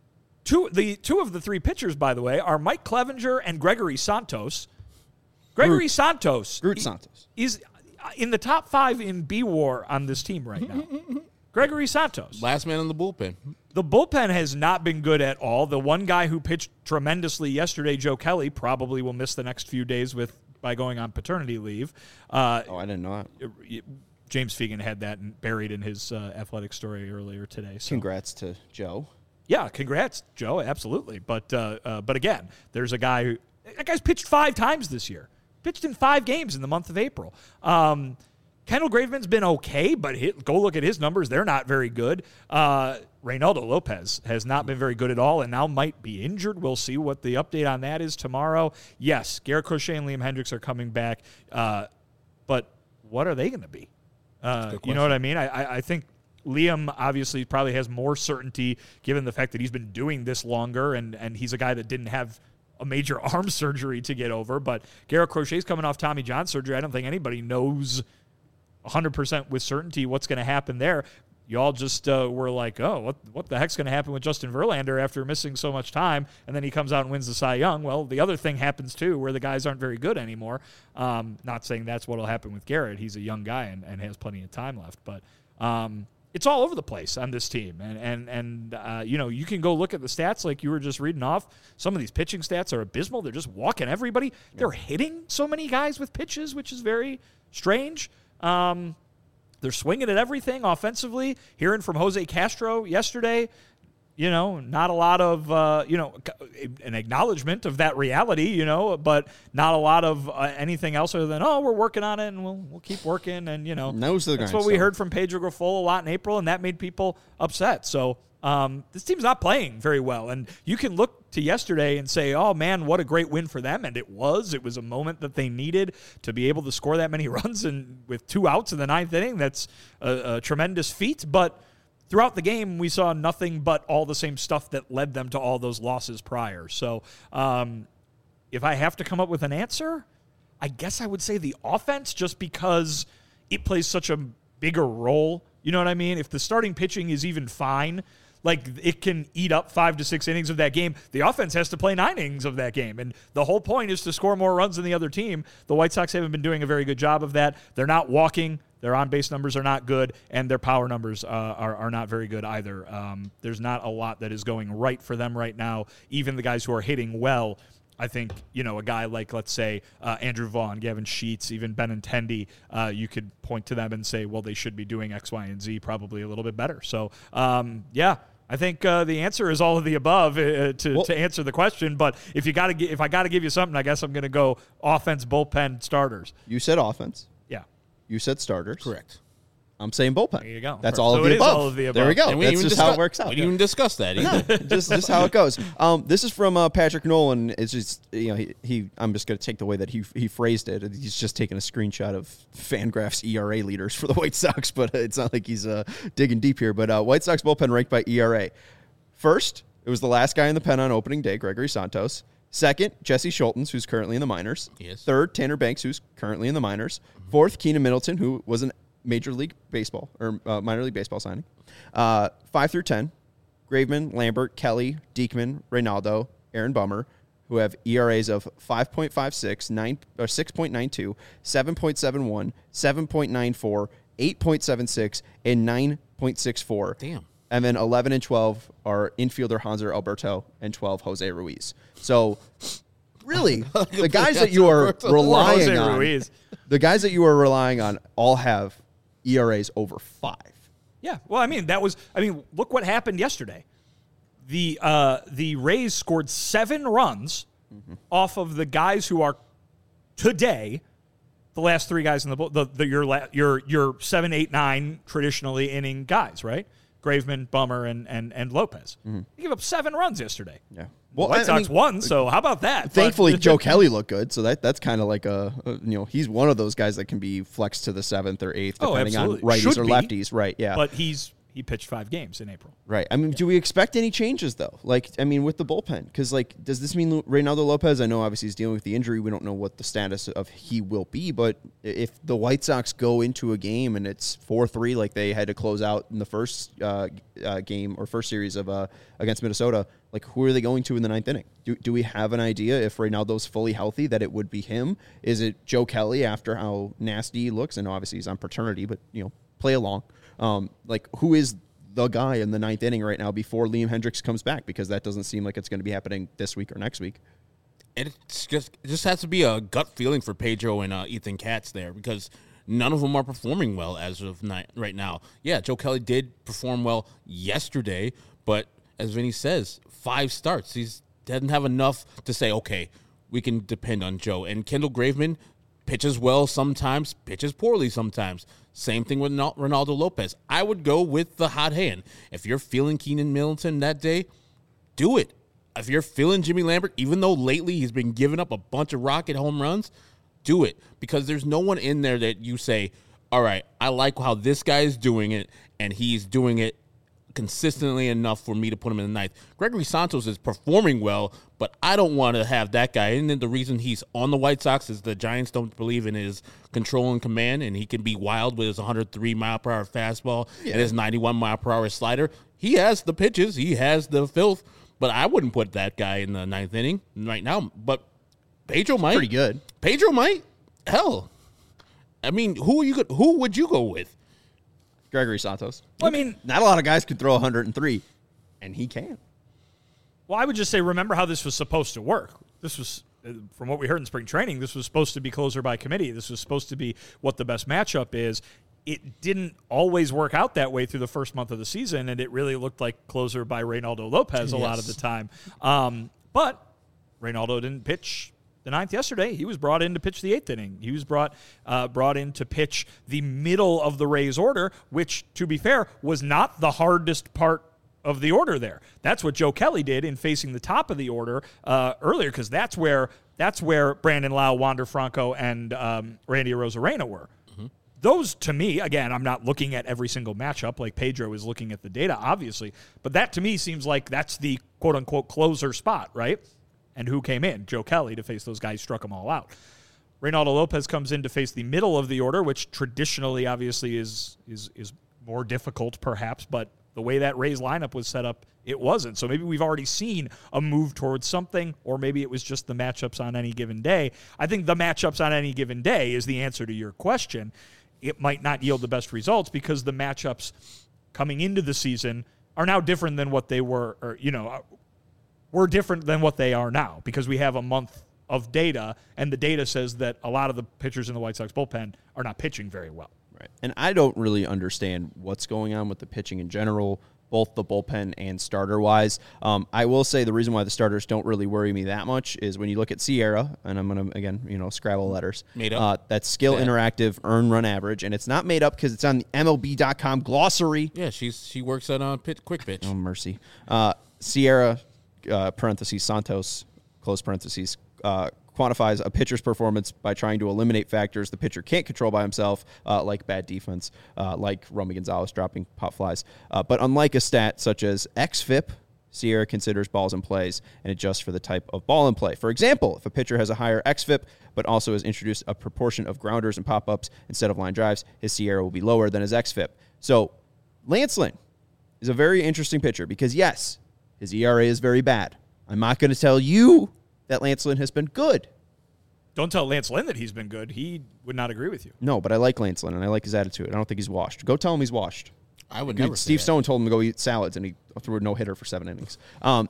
S3: Two, the two of the three pitchers, by the way, are Mike Clevenger and Gregory Santos. Gregory
S1: Groot.
S3: Santos
S1: Groot Santos.
S3: is in the top five in B-War on this team right now. Gregory Santos.
S2: Last man in the bullpen.
S3: The bullpen has not been good at all. The one guy who pitched tremendously yesterday, Joe Kelly, probably will miss the next few days with by going on paternity leave. Uh,
S1: Oh, I didn't know that.
S3: James Fegan had that buried in his uh, athletic story earlier today. So.
S1: Congrats to Joe.
S3: Yeah, congrats, Joe. Absolutely, but uh, uh, but again, there's a guy who that guy's pitched five times this year. Pitched in five games in the month of April. Um, Kendall Graveman's been okay, but hit, go look at his numbers; they're not very good. Uh, Reynaldo Lopez has not been very good at all, and now might be injured. We'll see what the update on that is tomorrow. Yes, Garrett Crochet and Liam Hendricks are coming back, uh, but what are they going to be? Uh, you know what I mean? I, I, I think. Liam obviously probably has more certainty given the fact that he's been doing this longer, and, and he's a guy that didn't have a major arm surgery to get over. But Garrett Crochet's coming off Tommy John surgery. I don't think anybody knows one hundred percent with certainty what's going to happen there. Y'all just uh, were like, oh, what what the heck's going to happen with Justin Verlander after missing so much time, and then he comes out and wins the Cy Young. Well, the other thing happens, too, where the guys aren't very good anymore. Um, not saying that's what will happen with Garrett. He's a young guy and, and has plenty of time left. But um, – it's all over the place on this team. And, and, and uh, you know, you can go look at the stats like you were just reading off. Some of these pitching stats are abysmal. They're just walking everybody. Yeah. They're hitting so many guys with pitches, which is very strange. Um, they're swinging at everything offensively. Hearing from Jose Castro yesterday, you know, not a lot of, uh, you know, an acknowledgement of that reality, you know, but not a lot of uh, anything else other than, oh, we're working on it and we'll we'll keep working. And, you know,
S1: Nose to the
S3: that's what we heard from Pedro Grifol a lot in April, and that made people upset. So um, this team's not playing very well. And you can look to yesterday and say, oh, man, what a great win for them. And it was. It was a moment that they needed to be able to score that many runs and with two outs in the ninth inning. That's a, a tremendous feat. But throughout the game, we saw nothing but all the same stuff that led them to all those losses prior. So um, if I have to come up with an answer, I guess I would say the offense, just because it plays such a bigger role. You know what I mean? If the starting pitching is even fine, like it can eat up five to six innings of that game, the offense has to play nine innings of that game. And the whole point is to score more runs than the other team. The White Sox haven't been doing a very good job of that. They're not walking. Their on-base numbers are not good, and their power numbers uh, are, are not very good either. Um, there's not a lot that is going right for them right now. Even the guys who are hitting well, I think, you know, a guy like, let's say, uh, Andrew Vaughn, Gavin Sheets, even Benintendi, uh, you could point to them and say, well, they should be doing X, Y, and Z probably a little bit better. So, um, yeah. I think uh, the answer is all of the above uh, to,
S1: well,
S3: to answer the question. But if you got to, if I got to give you something, I guess I'm going to go offense, bullpen, starters.
S1: You said offense.
S3: Yeah.
S1: You said starters.
S2: Correct.
S1: I'm saying bullpen.
S3: There you go.
S1: That's
S3: So
S1: all, of
S3: it
S1: the
S3: is
S1: above.
S3: all of the above.
S1: There we go.
S2: And we
S1: That's
S2: even
S1: just
S2: discuss-
S1: how it works out.
S2: We didn't even discuss that either.
S1: just just how it goes. Um, this is from uh, Patrick Nolan. It's just, you know, he, he I'm just going to take the way that he he phrased it. He's just taking a screenshot of Fangraph's E R A leaders for the White Sox, but it's not like he's uh, digging deep here. But uh, White Sox bullpen ranked by E R A. First, it was the last guy in the pen on opening day, Gregory Santos. Second, Jesse Schultens, who's currently in the minors.
S2: Yes.
S1: Third, Tanner Banks, who's currently in the minors. Fourth, Keenan Middleton, who was an Major League Baseball or uh, minor league baseball signing. Uh, five through ten, Graveman, Lambert, Kelly, Diekman, Reynaldo, Aaron Bummer, who have E R As of five point five six, nine, or six point nine two, seven point seven one, seven point nine four, eight point seven six, and nine point six four.
S2: Damn.
S1: And then eleven and twelve are infielder Hanser Alberto and twelve Jose Ruiz. So, really, the guys that you are relying
S3: Jose
S1: on,
S3: Ruiz.
S1: the guys that you are relying on all have E R As over five.
S3: Yeah, well, I mean, that was, I mean, look what happened yesterday. The uh, the Rays scored seven runs mm-hmm. off of the guys who are today the last three guys in the the, the your la, your your seven, eight, nine traditionally inning guys, right? Graveman, Bummer, and and and Lopez. Mm-hmm. They gave up seven runs yesterday.
S1: Yeah,
S3: well, the White Sox I mean, won. So how about that?
S1: Thankfully,
S3: but,
S1: Joe Kelly looked good. So that that's kind of like a, a you know he's one of those guys that can be flexed to the seventh or eighth depending
S3: oh,
S1: on righties
S3: Should
S1: or
S3: be,
S1: lefties. Right? Yeah,
S3: but he's. He pitched five games in April.
S1: Right. I mean, yeah. do we expect any changes, though? Like, I mean, with the bullpen? Because, like, does this mean Reynaldo Lopez? I know, obviously, he's dealing with the injury. We don't know what the status of he will be. But if the White Sox go into a game and it's four three, like they had to close out in the first uh, uh, game or first series of uh, against Minnesota, like, who are they going to in the ninth inning? Do, do we have an idea if Reynaldo's fully healthy that it would be him? Is it Joe Kelly after how nasty he looks? And obviously, he's on paternity, but, you know, play along. Um, like, who is the guy in the ninth inning right now before Liam Hendricks comes back? Because that doesn't seem like it's going to be happening this week or next week.
S2: And it's just, it just has to be a gut feeling for Pedro and uh, Ethan Katz there because none of them are performing well as of night, right now. Yeah, Joe Kelly did perform well yesterday, but as Vinny says, five starts. He doesn't have enough to say, okay, we can depend on Joe. And Kendall Graveman pitches well sometimes, pitches poorly sometimes. Same thing with Reynaldo Lopez. I would go with the hot hand. If you're feeling Keenan Middleton that day, do it. If you're feeling Jimmy Lambert, even though lately he's been giving up a bunch of rocket home runs, do it. Because there's no one in there that you say, all right, I like how this guy is doing it, and he's doing it consistently enough for me to put him in the ninth. Gregory Santos is performing well, but I don't want to have that guy. And then the reason he's on the White Sox is the Giants don't believe in his control and command, and he can be wild with his one hundred three mile per hour fastball yeah. and his ninety-one mile per hour slider. He has the pitches. He has the filth, but I wouldn't put that guy in the ninth inning right now. But Pedro might.
S1: Pretty good.
S2: Pedro might. Hell. I mean, who are you? Who would you go with?
S1: Gregory Santos.
S3: Well, I mean,
S1: not a lot of guys could throw one hundred three, and he can.
S3: Well, I would just say, remember how this was supposed to work. This was, from what we heard in spring training, this was supposed to be closer by committee. This was supposed to be what the best matchup is. It didn't always work out that way through the first month of the season, and it really looked like closer by Reynaldo Lopez a yes. lot of the time. Um, but Reynaldo didn't pitch the ninth yesterday. He was brought in to pitch the eighth inning. He was brought uh, brought in to pitch the middle of the Rays order, which, to be fair, was not the hardest part of the order there. That's what Joe Kelly did in facing the top of the order uh, earlier, because that's where that's where Brandon Lau, Wander Franco, and um, Randy Arozarena were. Mm-hmm. Those, to me, again, I'm not looking at every single matchup like Pedro is looking at the data, obviously, but that to me seems like that's the quote-unquote closer spot, right? And who came in? Joe Kelly to face those guys, struck them all out. Reynaldo Lopez comes in to face the middle of the order, which traditionally, obviously, is is is more difficult, perhaps, but the way that Rays lineup was set up, it wasn't. So maybe we've already seen a move towards something, or maybe it was just the matchups on any given day. I think the matchups on any given day is the answer to your question. It might not yield the best results because the matchups coming into the season are now different than what they were, or, you know, were different than what they are now because we have a month of data, and the data says that a lot of the pitchers in the White Sox bullpen are not pitching very well.
S1: Right. And I don't really understand what's going on with the pitching in general, both the bullpen and starter-wise. Um, I will say the reason why the starters don't really worry me that much is when you look at Sierra, and I'm going to, again, you know, Scrabble letters.
S2: Made up.
S1: Uh, that's skill yeah. interactive, earn run average, and it's not made up because it's on the M L B dot com glossary.
S2: Yeah, she's she works at uh, pit, Quick Pitch.
S1: Oh, mercy. Uh, Sierra, uh, parentheses, Santos, close parentheses, uh, quantifies a pitcher's performance by trying to eliminate factors the pitcher can't control by himself, uh, like bad defense, uh, like Romy Gonzalez dropping pop flies. Uh, but unlike a stat such as X F I P, Sierra considers balls in plays and adjusts for the type of ball in play. For example, if a pitcher has a higher X F I P, but also has introduced a proportion of grounders and pop-ups instead of line drives, his Sierra will be lower than his X F I P. So, Lance Lynn, is a very interesting pitcher because, yes, his E R A is very bad. I'm not going to tell you that Lance Lynn has been good.
S3: Don't tell Lance Lynn that he's been good. He would not agree with you.
S1: No, but I like Lance Lynn, and I like his attitude. I don't think he's washed. Go tell him he's washed.
S2: I would
S1: Dude,
S2: never.
S1: Steve
S2: say
S1: Stone told him to go eat salads, and he threw a no-hitter for seven innings. Um,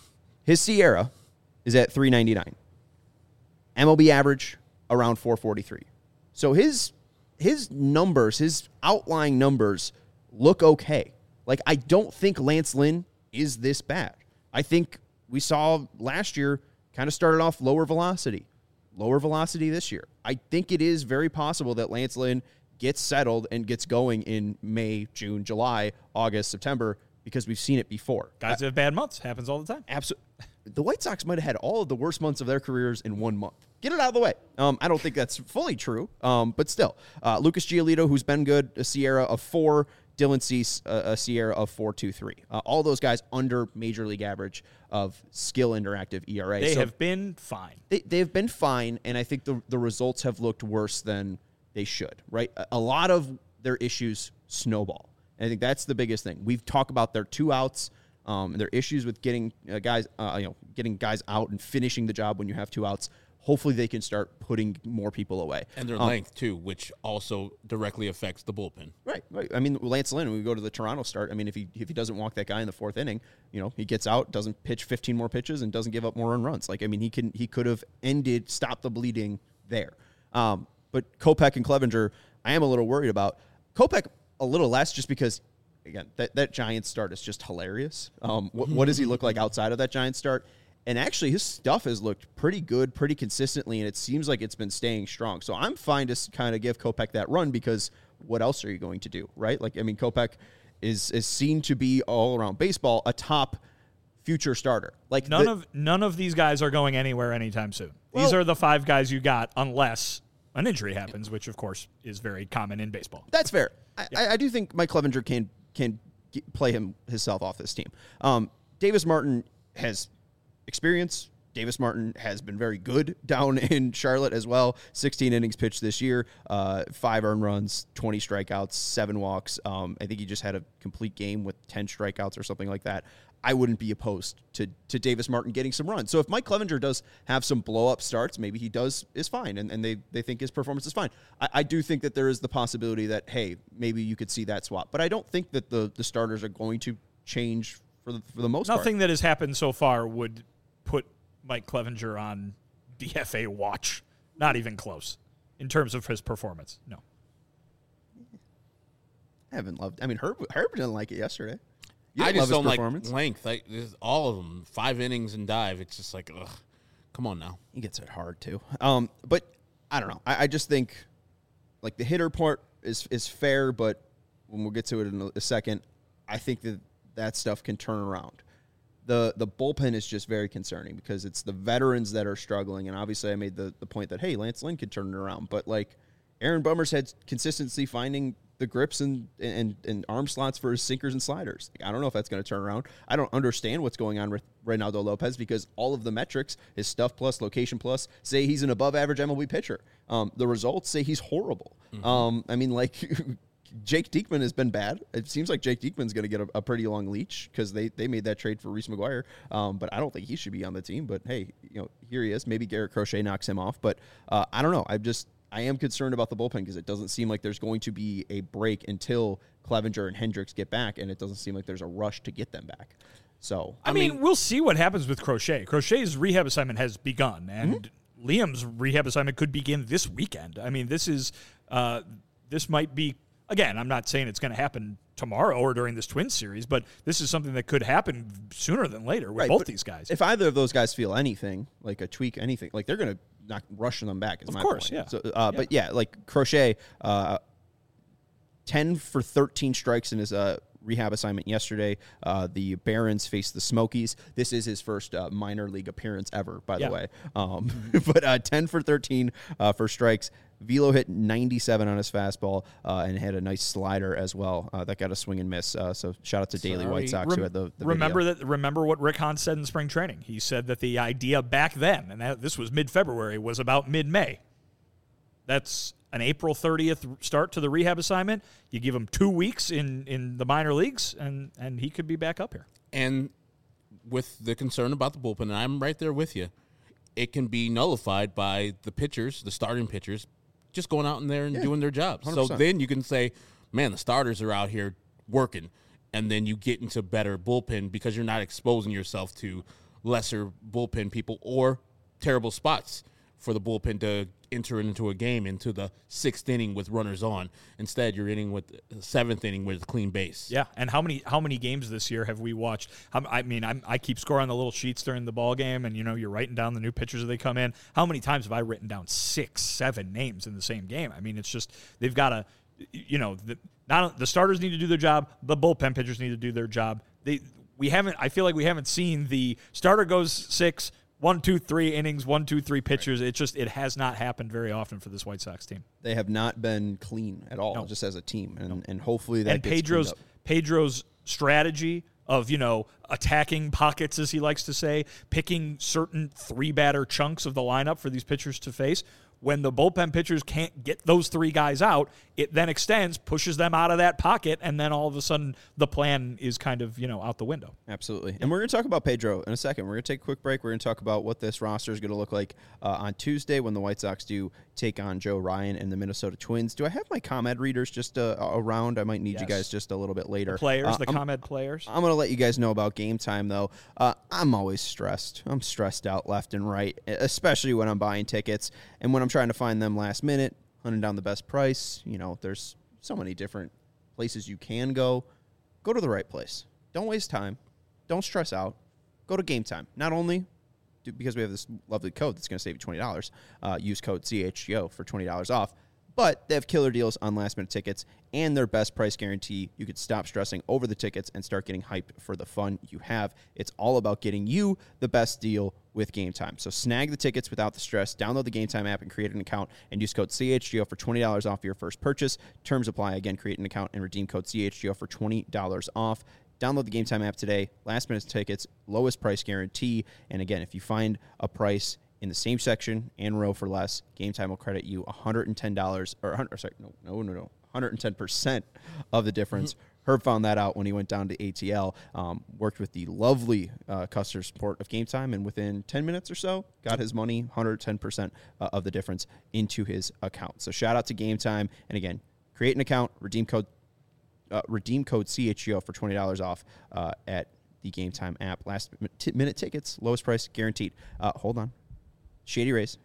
S1: his Sierra is at three ninety-nine. M L B average around four forty-three. So his his numbers, his outlying numbers look okay. Like, I don't think Lance Lynn is this bad. I think we saw last year kind of started off lower velocity. Lower velocity this year. I think it is very possible that Lance Lynn gets settled and gets going in May, June, July, August, September, because we've seen it before.
S3: Guys have bad months. Happens all the time.
S1: Absolutely. The White Sox might have had all of the worst months of their careers in one month. Get it out of the way. Um, I don't think that's fully true, um, but still. Uh, Lucas Giolito, who's been good, a Sierra of four. Dylan Cease, uh, a Sierra of four two three. Uh, all those guys under Major League average of skill interactive E R A.
S3: They
S1: so
S3: have been fine.
S1: They, they've been fine, and I think the, the results have looked worse than they should, right? A, a lot of their issues snowball. And I think that's the biggest thing. We've talked about their two outs, um, and their issues with getting uh, guys, uh, you know, getting guys out and finishing the job when you have two outs. Hopefully they can start putting more people away.
S2: And their
S1: um,
S2: length, too, which also directly affects the bullpen.
S1: Right, right. I mean, Lance Lynn, when we go to the Toronto start, I mean, if he if he doesn't walk that guy in the fourth inning, you know, he gets out, doesn't pitch fifteen more pitches, and doesn't give up more run runs. Like, I mean, he can he could have ended, stopped the bleeding there. Um, but Kopech and Clevenger, I am a little worried about. Kopech, a little less, just because, again, that, that Giants start is just hilarious. Um, what, what does he look like outside of that Giants start? And actually, his stuff has looked pretty good, pretty consistently, and it seems like it's been staying strong. So I'm fine to kind of give Kopech that run because what else are you going to do, right? Like, I mean, Kopech is is seen to be all around baseball a top future starter. Like
S3: none
S1: the,
S3: of none of these guys are going anywhere anytime soon.
S1: Well,
S3: these are the five guys you got, unless an injury happens, which of course is very common in baseball.
S1: That's fair. I, yeah. I, I do think Mike Clevenger can can get, play him himself off this team. Um, Davis Martin has experience. Davis Martin has been very good down in Charlotte as well. sixteen innings pitched this year, uh, five earned runs, twenty strikeouts, seven walks. Um, I think he just had a complete game with ten strikeouts or something like that. I wouldn't be opposed to to Davis Martin getting some runs. So if Mike Clevenger does have some blow-up starts, maybe he does is fine, and, and they, they think his performance is fine. I, I do think that there is the possibility that, hey, maybe you could see that swap. But I don't think that the, the starters are going to change for the, for the most part.
S3: Nothing that has happened so far would put Mike Clevenger on D F A watch. Not even close in terms of his performance. No.
S1: I haven't loved I mean, Herb, Herb didn't like it yesterday. You
S2: I
S1: didn't
S2: just
S1: love
S2: don't
S1: his
S2: like
S1: performance.
S2: length. I, there's all of them, five innings and dive. It's just like, ugh, come on now.
S1: He gets it hard, too. Um, but I don't know. I, I just think, like, the hitter part is is fair, but when we'll get to it in a, a second, I think that that stuff can turn around. The the bullpen is just very concerning because it's the veterans that are struggling. And obviously I made the, the point that, hey, Lance Lynn could turn it around. But, like, Aaron Bummer's had consistency finding the grips and, and, and arm slots for his sinkers and sliders. Like, I don't know if that's going to turn around. I don't understand what's going on with Reynaldo Lopez because all of the metrics, his stuff plus, location plus, say he's an above-average M L B pitcher. Um, the results say he's horrible. Mm-hmm. Um, I mean, like... Jake Diekman has been bad. It seems like Jake Diekman's going to get a, a pretty long leash because they, they made that trade for Reese McGuire. Um, but I don't think he should be on the team. But hey, you know, here he is. Maybe Garrett Crochet knocks him off. But uh, I don't know. I'm just I am concerned about the bullpen because it doesn't seem like there's going to be a break until Clevenger and Hendricks get back, and it doesn't seem like there's a rush to get them back. So
S3: I, I mean, mean, we'll see what happens with Crochet. Crochet's rehab assignment has begun, and mm-hmm. Liam's rehab assignment could begin this weekend. I mean, this is uh, this might be. Again, I'm not saying it's going to happen tomorrow or during this Twins series, but this is something that could happen sooner than later with
S1: right,
S3: both these guys.
S1: If either of those guys feel anything, like a tweak, anything, like they're going to not rush them back. Is
S3: of
S1: my
S3: course,
S1: point.
S3: yeah.
S1: So, uh,
S3: yeah.
S1: But yeah, like Crochet, uh, ten for thirteen strikes in his uh, rehab assignment yesterday. Uh, the Barons faced the Smokies. This is his first uh, minor league appearance ever, by
S3: yeah.
S1: the way. Um, but uh, ten for thirteen uh, for strikes. Velo hit ninety-seven on his fastball uh, and had a nice slider as well. Uh, that got a swing and miss. Uh, so shout out to Daily
S3: Sorry.
S1: White Sox
S3: Rem-
S1: who had the, the
S3: remember
S1: video.
S3: that. Remember what Rick Hahn said in spring training. He said that the idea back then, and that, this was mid-February, was about mid-May. That's an April thirtieth start to the rehab assignment. You give him two weeks in, in the minor leagues, and, and he could be back up here.
S2: And with the concern about the bullpen, and I'm right there with you, it can be nullified by the pitchers, the starting pitchers, just going out in there and
S1: Yeah,
S2: doing their jobs.
S1: one hundred percent.
S2: So then you can say, man, the starters are out here working, and then you get into better bullpen because you're not exposing yourself to lesser bullpen people or terrible spots for the bullpen to enter into a game into the sixth inning with runners on. Instead, you're inning with the seventh inning with a clean base.
S3: Yeah, and how many how many games this year have we watched? How, I mean, I'm, I keep score on the little sheets during the ball game, and you know you're writing down the new pitchers as they come in. How many times have I written down six, seven names in the same game? I mean, it's just they've got to, you know, the, not the starters need to do their job, the bullpen pitchers need to do their job. They we haven't. I feel like we haven't seen the starter goes six. One, two, three innings, one, two, three pitchers. It just it has not happened very often for this White Sox team.
S1: They have not been clean at all,
S3: No.
S1: just as a team, and and hopefully that
S3: And
S1: gets
S3: Pedro's
S1: cleaned up.
S3: Pedro's strategy of, you know, attacking pockets, as he likes to say, picking certain three batter chunks of the lineup for these pitchers to face. When the bullpen pitchers can't get those three guys out, it then extends, pushes them out of that pocket, and then all of a sudden the plan is kind of, you know, out the window.
S1: Absolutely. And we're going to talk about Pedro in a second. We're going to take a quick break. We're going to talk about what this roster is going to look like uh, on Tuesday when the White Sox do take on Joe Ryan and the Minnesota Twins. Do I have my ComEd readers just uh, around? I might need
S3: Yes.
S1: you guys just a little bit later.
S3: Players,
S1: Uh,
S3: the
S1: I'm-
S3: ComEd players.
S1: I'm going to let you guys know about game time, though. Uh, I'm always stressed. I'm stressed out left and right, especially when I'm buying tickets and when I'm trying to find them last minute, hunting down the best price. You know, there's so many different places you can go. Go to the right place. Don't waste time. Don't stress out. Go to Game Time. Not only do, because we have this lovely code that's going to save you twenty dollars, uh, use code C H G O for twenty dollars off. But they have killer deals on last-minute tickets and their best price guarantee. You could stop stressing over the tickets and start getting hyped for the fun you have. It's all about getting you the best deal with Game Time. So snag the tickets without the stress. Download the Game Time app and create an account and use code C H G O for twenty dollars off your first purchase. Terms apply. Again, create an account and redeem code C H G O for twenty dollars off. Download the Game Time app today. Last-minute tickets, lowest price guarantee. And again, if you find a price in the same section and row for less, Game Time will credit you one hundred ten dollars or one hundred, sorry, no, no, no, no, one hundred ten percent of the difference. Herb found that out when he went down to A T L, um, worked with the lovely uh, customer support of Game Time, and within ten minutes or so, got his money, one hundred ten percent uh, of the difference into his account. So shout out to Game Time. And again, create an account, redeem code, uh, redeem code C H G O for twenty dollars off uh, at the Game Time app. Last minute tickets, lowest price guaranteed. Uh, hold on. Shady Rays.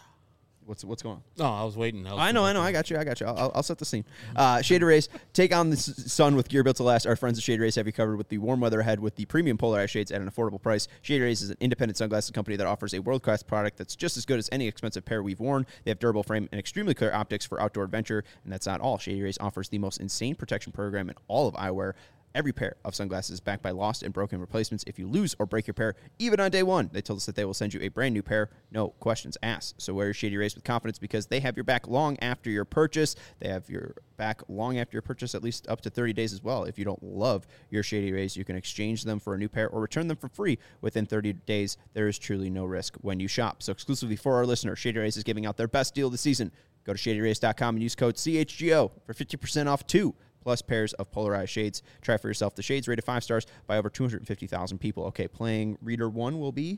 S1: What's what's going on?
S2: No, I was waiting. I, was
S1: I know, I know. I got you. I got you. I'll, I'll- I'll set the scene. Uh, Shady Rays, take on the s- sun with gear built to last. Our friends at Shady Rays have you covered with the warm weather ahead with the premium polarized shades at an affordable price. Shady Rays is an independent sunglasses company that offers a world-class product that's just as good as any expensive pair we've worn. They have durable frame and extremely clear optics for outdoor adventure, and that's not all. Shady Rays offers the most insane protection program in all of eyewear. Every pair of sunglasses is backed by lost and broken replacements. If you lose or break your pair, even on day one, they told us that they will send you a brand new pair. No questions asked. So wear your Shady Rays with confidence because they have your back long after your purchase. They have your back long after your purchase, at least up to thirty days as well. If you don't love your Shady Rays, you can exchange them for a new pair or return them for free within thirty days. There is truly no risk when you shop. So exclusively for our listeners, Shady Rays is giving out their best deal this season. Go to shady rays dot com and use code C H G O for fifty percent off two plus pairs of polarized shades. Try for yourself. The shades rated five stars by over two hundred fifty thousand people. Okay, playing reader one will be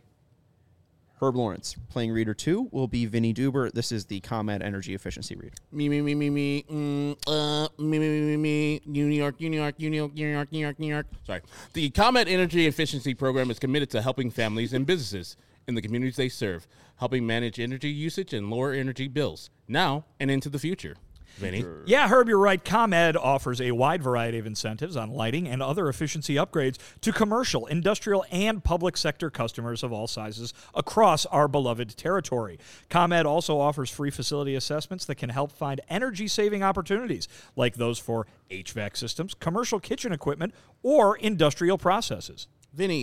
S1: Herb Lawrence. Playing reader two will be Vinny Duber. This is the ComEd Energy Efficiency reader.
S2: Me, me, me, me, me, mm, uh, me, me, me, me, me, New York, New York, New York, New York, New York, New York. Sorry. The ComEd Energy Efficiency Program is committed to helping families and businesses in the communities they serve, helping manage energy usage and lower energy bills now and into the future. Vinny?
S3: Yeah, Herb, you're right. ComEd offers a wide variety of incentives on lighting and other efficiency upgrades to commercial, industrial, and public sector customers of all sizes across our beloved territory. ComEd also offers free facility assessments that can help find energy-saving opportunities, like those for H V A C systems, commercial kitchen equipment, or industrial processes.
S2: Vinny,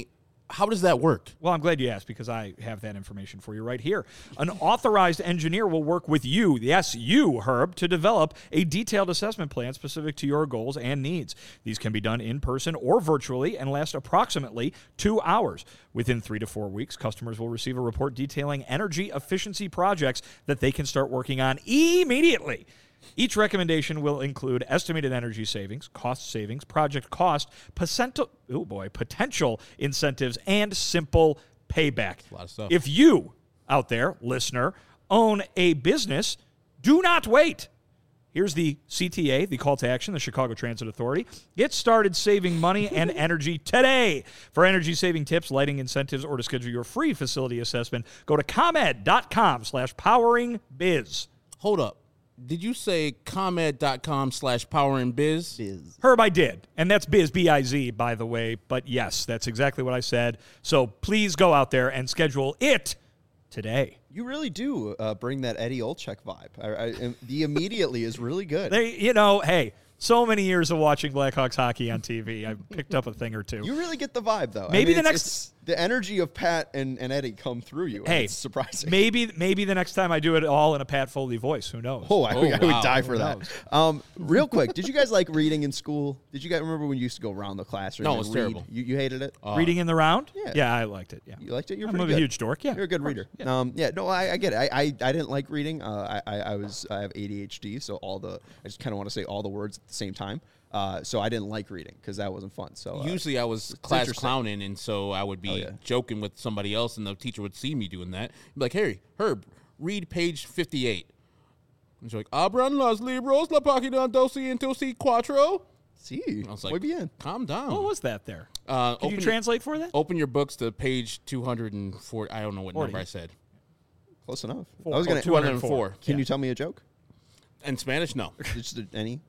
S2: how does that work?
S3: Well, I'm glad you asked because I have that information for you right here. An authorized engineer will work with you, yes, you, Herb, to develop a detailed assessment plan specific to your goals and needs. These can be done in person or virtually and last approximately two hours. Within three to four weeks, customers will receive a report detailing energy efficiency projects that they can start working on immediately. Each recommendation will include estimated energy savings, cost savings, project cost, potential, oh boy, potential incentives, and simple payback.
S2: A lot of stuff.
S3: If you, out there, listener, own a business, do not wait. Here's the C T A, the call to action, the Chicago Transit Authority. Get started saving money and energy today. For energy-saving tips, lighting incentives, or to schedule your free facility assessment, go to ComEd.com slash powering biz.
S2: Hold up. Did you say ComEd.com slash power and biz?
S1: Biz.
S3: Herb, I did. And that's Biz, B I Z, by the way. But yes, that's exactly what I said. So please go out there and schedule it today.
S1: You really do uh, bring that Eddie Olczyk vibe. I, I, the immediately is really good.
S3: They, you know, hey, so many years of watching Blackhawks hockey on T V. I picked up a thing or two.
S1: You really get the vibe, though.
S3: Maybe
S1: I mean,
S3: the
S1: it's-
S3: next-
S1: it's- the energy of Pat and, and Eddie come through you. and
S3: Hey,
S1: it's surprising.
S3: Maybe, maybe the next time I do it all in a Pat Foley voice. Who knows?
S1: Oh, I,
S2: Oh,
S1: I would
S2: wow.
S1: die for
S3: Who
S1: that.
S3: knows?
S1: Um, real quick, did you guys like reading in school? Did you guys remember when you used to go around the classroom?
S2: No,
S1: and
S2: it was
S1: read?
S2: terrible.
S1: You, you hated it?
S3: Reading in the round?
S1: Yeah.
S3: Yeah, I liked it. Yeah.
S1: You liked it? You're
S3: I'm
S1: pretty
S3: a
S1: good.
S3: huge dork. Yeah.
S1: You're a good
S3: of course.
S1: reader.
S3: Yeah.
S1: Um, yeah, no, I, I get it. I, I, I didn't like reading. Uh, I, I, I was I have A D H D, so all the I just kind of want to say all the words at the same time. Uh, so I didn't like reading because that wasn't fun. So uh,
S2: Usually I was class
S1: interesting.
S2: clowning, and so I would be
S1: Oh, yeah.
S2: joking with somebody else, and the teacher would see me doing that. Be like, hey, Herb, read page fifty-eight. And she's like, Abran los libros, la página doce y doce cuatro.
S1: see,
S2: I was
S1: muy
S2: like,
S1: bien.
S2: calm down.
S3: What was that there?
S2: Uh,
S3: Can you
S2: open-
S3: translate for that?
S2: Open your books to page two hundred four. I don't know what
S3: forty.
S2: number I said.
S1: Close enough.
S3: Four.
S1: I was gonna.
S3: Oh,
S2: two hundred four.
S1: Can
S3: Yeah.
S1: you tell me a joke?
S2: In Spanish, no.
S1: Just a- any?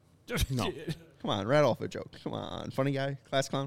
S2: No.
S1: Come on, rattle off a joke. Come on, funny guy, class clown.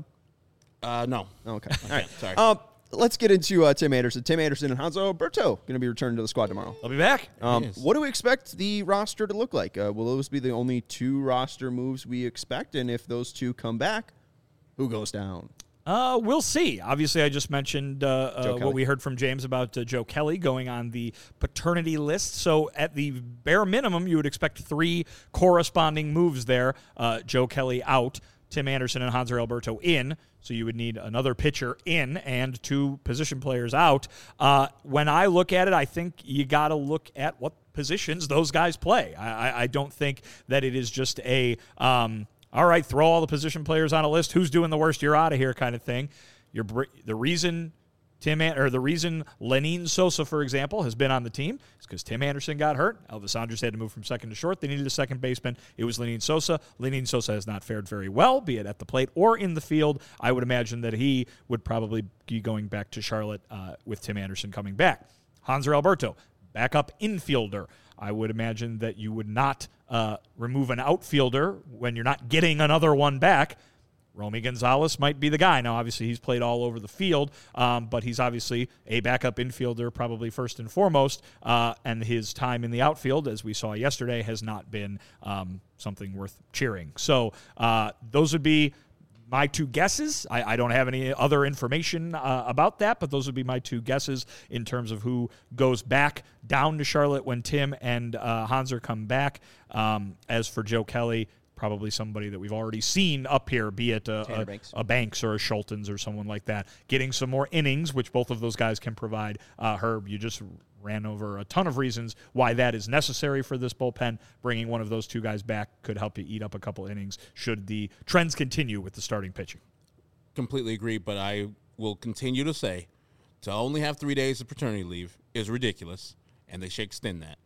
S2: Uh, no.
S1: Okay, all right.
S2: Sorry.
S1: Um, let's get into uh, Tim Anderson. Tim Anderson and Hanzo Alberto going to be returning to the squad tomorrow.
S3: I'll be back.
S1: Um,
S2: Yes.
S1: what do we expect the roster to look like? Uh, will those be the only two roster moves we expect? And if those two come back, who goes down?
S3: Uh, we'll see. Obviously, I just mentioned uh, uh,
S1: Kelly.
S3: what we heard from James about uh, Joe Kelly going on the paternity list. So, at the bare minimum, you would expect three corresponding moves there. Uh, Joe Kelly out, Tim Anderson and Hanser Alberto in. So, you would need another pitcher in and two position players out. Uh, when I look at it, I think you got to look at what positions those guys play. I, I, I don't think that it is just a. Um, all right, throw all the position players on a list. Who's doing the worst? You're out of here, kind of thing. You're br- the reason Tim An- or the reason Lenin Sosa, for example, has been on the team is because Tim Anderson got hurt. Elvis Andrus had to move from second to short. They needed a second baseman. It was Lenin Sosa. Lenin Sosa has not fared very well, be it at the plate or in the field. I would imagine that he would probably be going back to Charlotte uh, with Tim Anderson coming back. Hanser Alberto, backup infielder. I would imagine that you would not uh, remove an outfielder when you're not getting another one back. Romy Gonzalez might be the guy. Now, obviously, he's played all over the field, um, but he's obviously a backup infielder, probably first and foremost, uh, and his time in the outfield, as we saw yesterday, has not been um, something worth cheering. So uh, those would be my two guesses. I, I don't have any other information uh, about that, but those would be my two guesses in terms of who goes back down to Charlotte when Tim and uh, Hanser come back. Um, as for Joe Kelly, probably somebody that we've already seen up here, be it a,
S1: Tanner
S3: a,
S1: Banks.
S3: a Banks or a Schultens or someone like that, getting some more innings, which both of those guys can provide. Uh, Herb, you just ran over a ton of reasons why that is necessary for this bullpen. Bringing one of those two guys back could help you eat up a couple innings should the trends continue with the starting pitching.
S2: Completely agree, but I will continue to say to only have three days of paternity leave is ridiculous, and they should extend that.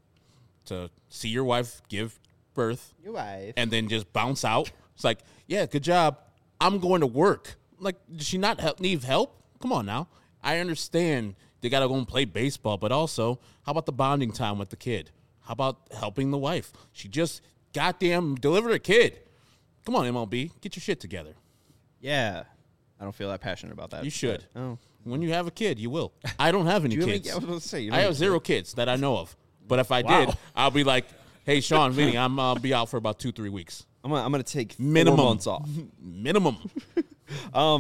S2: To see your wife give birth
S1: Your wife.
S2: and then just bounce out. It's like, yeah, good job. I'm going to work. Like, does she not help, need help? Come on now. I understand they got to go and play baseball, but also, how about the bonding time with the kid? How about helping the wife? She just goddamn delivered a kid. Come on, M L B. Get your shit together.
S1: Yeah. I don't feel that passionate about that.
S2: You should.
S1: but- oh.
S2: When you have a kid, you will. I don't have any
S1: Do you have any-
S2: kids.
S1: I was about to say, you
S2: I
S1: don't
S2: have
S1: have
S2: zero kids that I know of. But if I
S3: Wow.
S2: did, I'll be like, hey, Sean, Vinny, I'm uh, be out for about two, three weeks.
S1: I'm gonna, I'm gonna take
S2: Minimum.
S1: four months off.
S2: Minimum.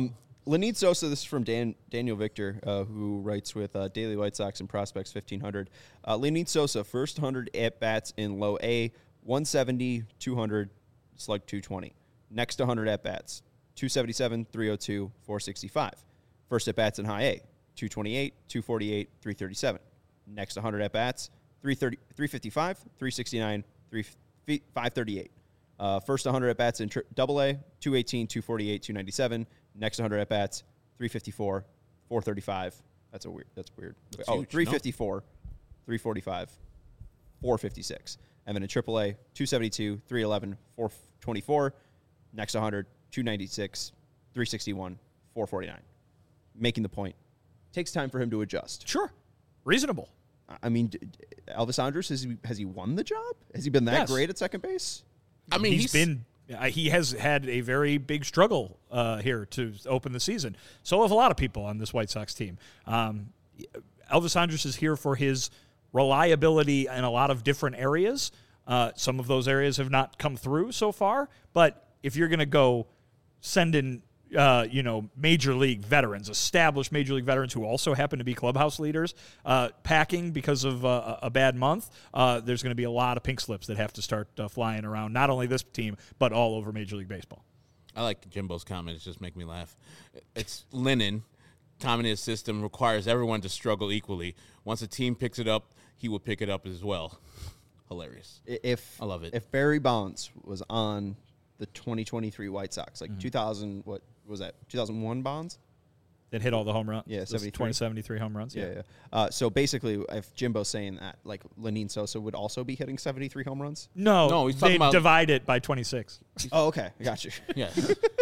S1: Lenyn Sosa, this is from Dan, Daniel Victor, uh, who writes with uh, Daily White Sox and Prospects fifteen hundred. Uh, Lenyn Sosa, first one hundred at-bats in low A, one seventy, two hundred, slug two twenty. Next one hundred at-bats, two seventy-seven, three oh two, four sixty-five. First at-bats in high A, two twenty-eight, two forty-eight, three thirty-seven. Next one hundred at-bats, three thirty, three fifty-five, three sixty-nine, five thirty-eight. Uh, first one hundred at-bats in tri- double A, two eighteen, two forty-eight, two ninety-seven. Next one hundred at-bats, three fifty-four, four thirty-five. That's a weird. That's weird.
S2: That's
S1: oh,
S2: huge,
S1: three fifty-four, three forty-five, four fifty-six. And then in triple A, two seventy-two, three eleven, four twenty-four. Next one hundred, two ninety-six, three sixty-one, four forty-nine. Making the point. Takes time for him to adjust.
S3: Sure. Reasonable.
S1: I mean, d- d- Elvis Andrus, has he, has he won the job? Has he been that
S3: Yes.
S1: great at second base?
S2: I mean,
S3: he's
S2: he's
S3: been uh, he has had a very big struggle uh, here to open the season. So have a lot of people on this White Sox team. Um, Elvis Andrus is here for his reliability in a lot of different areas. Uh, some of those areas have not come through so far. But if you're going to go send in uh, you know, major league veterans, established major league veterans who also happen to be clubhouse leaders, uh, packing because of uh, a bad month, uh, there's going to be a lot of pink slips that have to start uh, flying around, not only this team, but all over Major League Baseball.
S2: I like Jimbo's comment. It just make me laugh. It's Lenyn. Time in his system requires everyone to struggle equally. Once a team picks it up, he will pick it up as well. Hilarious.
S1: If
S2: I love it.
S1: If Barry Bonds was on the twenty twenty-three White Sox, like
S3: Mm-hmm.
S1: two thousand, what was that? two thousand one Bonds?
S3: That hit all the home runs.
S1: Yeah,
S3: Those
S1: seventy-three.
S3: twenty, seventy-three home runs.
S1: Yeah, yeah. Uh, so basically, if Jimbo's saying that, like Lenyn Sosa would also be hitting seventy-three home runs.
S3: No,
S2: No, he's
S3: they
S2: talking about-
S3: divide it by twenty-six.
S1: Oh, okay, I got you.
S2: Yeah.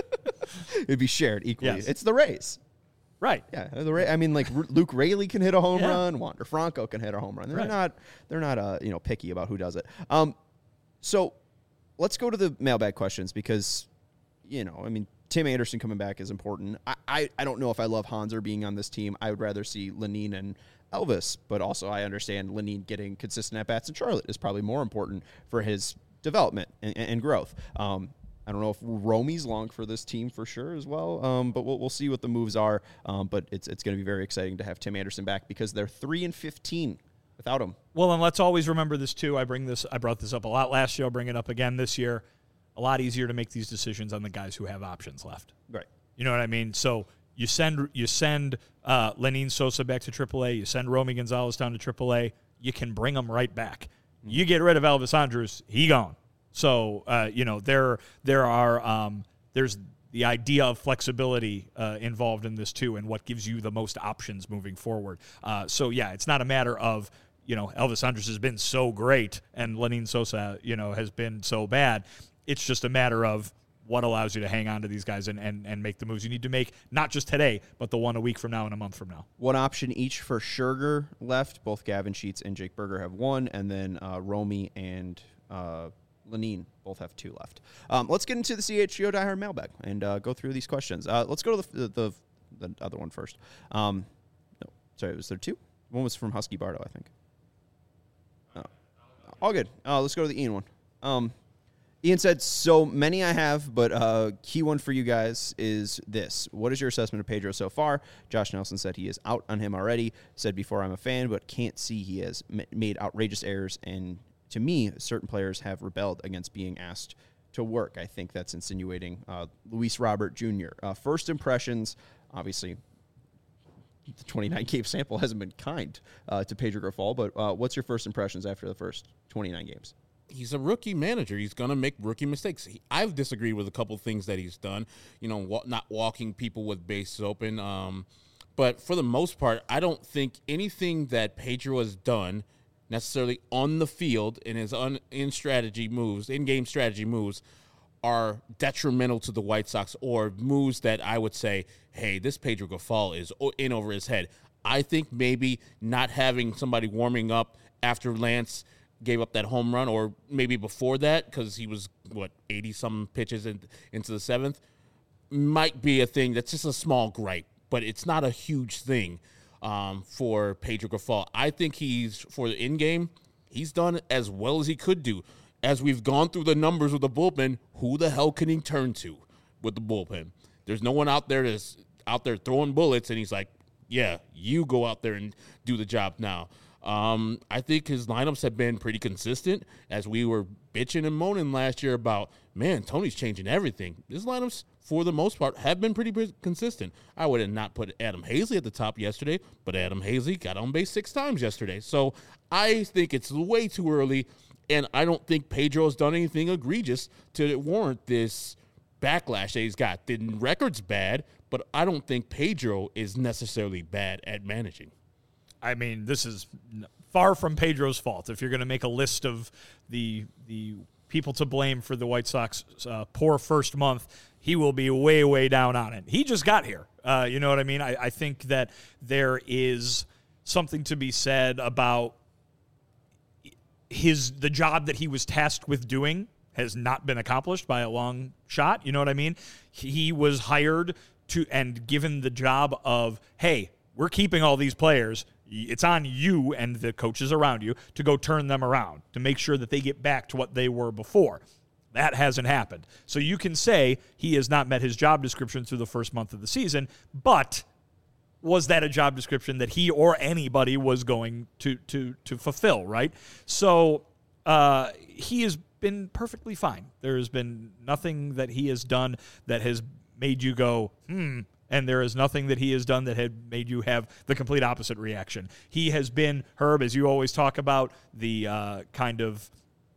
S1: It'd be shared equally.
S3: Yes.
S1: It's the Rays.
S3: Right.
S1: Yeah, the Ra- I mean, like R- Luke Raley can hit a home
S3: Yeah.
S1: run. Wander Franco can hit a home run. They're
S3: Right.
S1: not. They're not. Uh, you know, picky about who does it. Um, so let's go to the mailbag questions because, you know, I mean, Tim Anderson coming back is important. I, I, I don't know if I love Hanser being on this team. I would rather see Lenyn and Elvis, but also I understand Lenyn getting consistent at bats in Charlotte is probably more important for his development and, and growth. Um, I don't know if Romy's long for this team for sure as well, um, but we'll, we'll see what the moves are. Um, but it's it's going to be very exciting to have Tim Anderson back because they're three and fifteen without him.
S3: Well, and let's always remember this too. I bring this. I brought this up a lot last year. I'll bring it up again this year. A lot easier to make these decisions on the guys who have options left.
S1: Right.
S3: You know what I mean? So you send you send uh, Lenyn Sosa back to triple A. You send Romy Gonzalez down to triple A. You can bring them right back. Mm-hmm. You get rid of Elvis Andrus, he gone. So uh, you know there there are um, there's the idea of flexibility uh, involved in this too, and what gives you the most options moving forward. Uh, so yeah, it's not a matter of you know Elvis Andrus has been so great and Lenyn Sosa you know has been so bad. It's just a matter of what allows you to hang on to these guys and, and, and make the moves you need to make, not just today, but the one a week from now and a month from now.
S1: One option each for Scherger left. Both Gavin Sheets and Jake Berger have one, and then uh, Romy and uh, Lenyn both have two left. Um, let's get into the C H G O Die Hard mailbag and uh, go through these questions. Uh, let's go to the, the, the other one first. Um, no, sorry, was there two? One was from Husky Bardo, I think. Oh. All good. Uh, let's go to the Ian one. Um, Ian said, so many I have, but uh, key one for you guys is this. What is your assessment of Pedro so far? Josh Nelson said he is out on him already. Said before I'm a fan, but can't see he has m- made outrageous errors. And to me, certain players have rebelled against being asked to work. I think that's insinuating uh, Luis Robert Junior Uh, first impressions, obviously, the twenty-nine game sample hasn't been kind uh, to Pedro Grifol, but uh, what's your first impressions after the first twenty-nine games?
S2: He's a rookie manager. He's going to make rookie mistakes. He, I've disagreed with a couple of things that he's done, you know, wa- not walking people with bases open. Um, but for the most part, I don't think anything that Pedro has done necessarily on the field in his un, in strategy moves, in-game strategy moves, are detrimental to the White Sox or moves that I would say, hey, this Pedro Grifol is in over his head. I think maybe not having somebody warming up after Lance gave up that home run, or maybe before that, because he was, what, eighty-some pitches in, into the seventh, might be a thing that's just a small gripe, but it's not a huge thing um, for Pedro Grifol. I think he's, for the in-game, he's done as well as he could do. As we've gone through the numbers with the bullpen, who the hell can he turn to with the bullpen? There's no one out there that's out there throwing bullets, and he's like, yeah, you go out there and do the job now. Um, I think his lineups have been pretty consistent, as we were bitching and moaning last year about, man, Tony's changing everything. His lineups, for the most part, have been pretty consistent. I would have not put Adam Hazley at the top yesterday, but Adam Hazley got on base six times yesterday. So I think it's way too early, and I don't think Pedro's done anything egregious to warrant this backlash that he's got. The record's bad, but I don't think Pedro is necessarily bad at managing.
S3: I mean, this is far from Pedro's fault. If you're going to make a list of the the people to blame for the White Sox uh, poor first month, he will be way, way down on it. He just got here. Uh, you know what I mean? I, I think that there is something to be said about his the job that he was tasked with doing has not been accomplished by a long shot. You know what I mean? He was hired to and given the job of, hey, we're keeping all these players. It's on you and the coaches around you to go turn them around, to make sure that they get back to what they were before. That hasn't happened. So you can say he has not met his job description through the first month of the season, but was that a job description that he or anybody was going to to to fulfill, right? So uh, he has been perfectly fine. There has been nothing that he has done that has made you go, hmm, and there is nothing that he has done that had made you have the complete opposite reaction. He has been, Herb, as you always talk about, the uh, kind of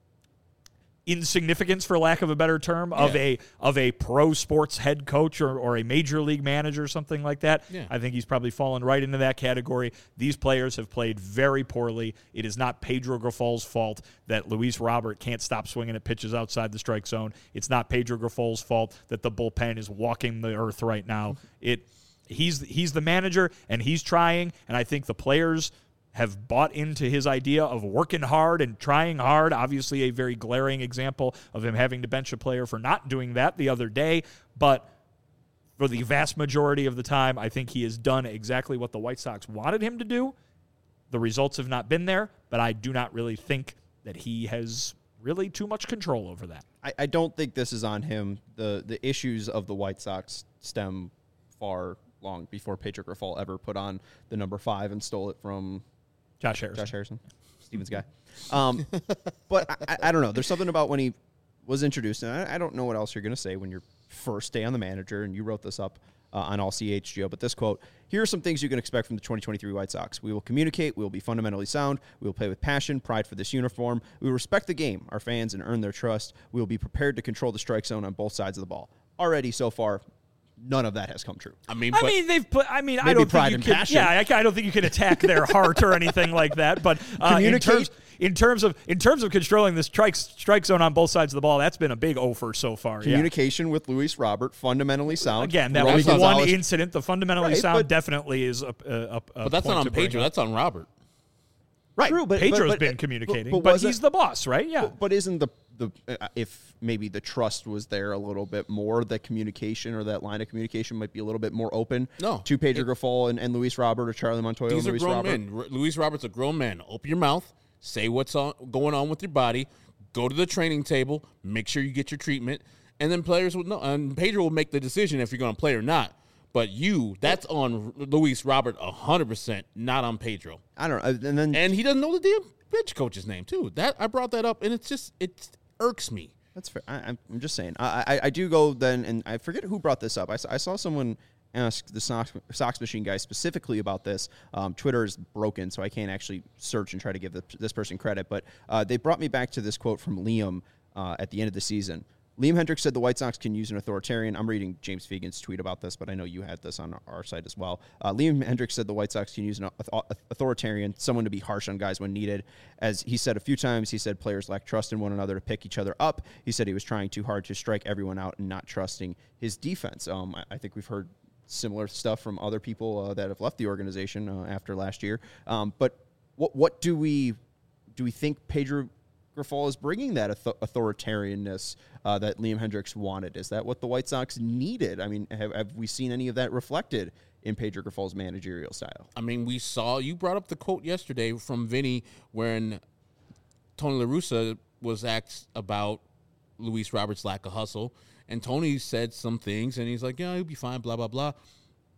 S3: insignificance, for lack of a better term, of
S2: Yeah.
S3: a of a pro sports head coach or, or a major league manager or something like that.
S2: Yeah.
S3: I think he's probably fallen right into that category. These players have played very poorly. It is not Pedro Grifol's fault that Luis Robert can't stop swinging at pitches outside the strike zone. It's not Pedro Grifol's fault that the bullpen is walking the earth right now. It he's he's the manager, and he's trying, and I think the players have bought into his idea of working hard and trying hard. Obviously, a very glaring example of him having to bench a player for not doing that the other day. But for the vast majority of the time, I think he has done exactly what the White Sox wanted him to do. The results have not been there, but I do not really think that he has really too much control over that.
S1: I, I don't think this is on him. The the issues of the White Sox stem far long before Pedro Grifol ever put on the number five and stole it from
S3: Josh Harrison.
S1: Josh Harrison, Steven's guy. Um, but I, I don't know. There's something about when he was introduced, and I, I don't know what else you're going to say when you're first day on the manager, and you wrote this up uh, on All C H, Joe. But this quote, here are some things you can expect from the twenty twenty-three White Sox. We will communicate. We will be fundamentally sound. We will play with passion, pride for this uniform. We will respect the game, our fans, and earn their trust. We will be prepared to control the strike zone on both sides of the ball. Already so far, none of that has come true.
S2: I mean,
S3: I
S2: but
S3: mean, they've put. I mean, I
S1: Maybe
S3: don't
S1: pride
S3: think you
S1: and
S3: can.
S1: passion.
S3: Yeah, I, I don't think you can attack their heart or anything like that. But uh, in
S1: Communicate.
S3: terms, in terms of in terms of controlling the strike strike zone on both sides of the ball, that's been a big offer so far. Yeah.
S1: Communication with Luis Robert, fundamentally sound.
S3: Again, that
S1: Romy
S3: was one
S1: Gonzalez-
S3: incident. The fundamentally
S1: Right,
S3: sound
S1: but-
S3: definitely is a. a, a
S2: but that's
S3: point
S2: not
S3: to
S2: on
S3: bring
S2: Pedro.
S3: up.
S2: That's on Robert.
S1: Right.
S3: True,
S1: but-
S3: Pedro's
S1: but- but-
S3: been
S1: but-
S3: communicating,
S1: but
S3: but,
S1: was
S3: he's
S1: it-
S3: the boss, right? Yeah.
S1: But, but isn't the the uh, if maybe the trust was there a little bit more, that communication or that line of communication might be a little bit more open
S2: No.
S1: to Pedro Grifol and, and Luis Robert or Charlie Montoya
S2: These
S1: and
S2: are
S1: Luis
S2: grown
S1: Robert?
S2: men. R- Luis Robert's a grown man. Open your mouth. Say what's on, going on with your body. Go to the training table. Make sure you get your treatment. And then players will know. And Pedro will make the decision if you're going to play or not. But you, that's on Luis Robert one hundred percent, not on Pedro.
S1: I don't know. And then
S2: And he doesn't know the damn bench coach's name, too. That I brought that up, and it's just, it irks me.
S1: that's fair. I, I'm I'm just saying. I, I I do go then, and I forget who brought this up. I, saw- I saw someone ask the Sox, Sox Machine guy specifically about this. Um, Twitter is broken, so I can't actually search and try to give the, this person credit. But uh, they brought me back to this quote from Liam uh, at the end of the season. Liam Hendricks said the White Sox can use an authoritarian. I'm reading James Fegan's tweet about this, but I know you had this on our site as well. Uh, Liam Hendricks said the White Sox can use an authoritarian, someone to be harsh on guys when needed. As he said a few times, he said players lack trust in one another to pick each other up. He said he was trying too hard to strike everyone out and not trusting his defense. Um, I, I think we've heard similar stuff from other people uh, that have left the organization uh, after last year. Um, but what what do we do we think Pedro Grifol is bringing that author- authoritarianness uh, that Liam Hendricks wanted? Is that what the White Sox needed? I mean, have, have we seen any of that reflected in Pedro Grifol's managerial style?
S2: I mean, we saw, you brought up the quote yesterday from Vinny when Tony La Russa was asked about Luis Roberts' lack of hustle. And Tony said some things, and he's like, yeah, he'll be fine, blah, blah, blah.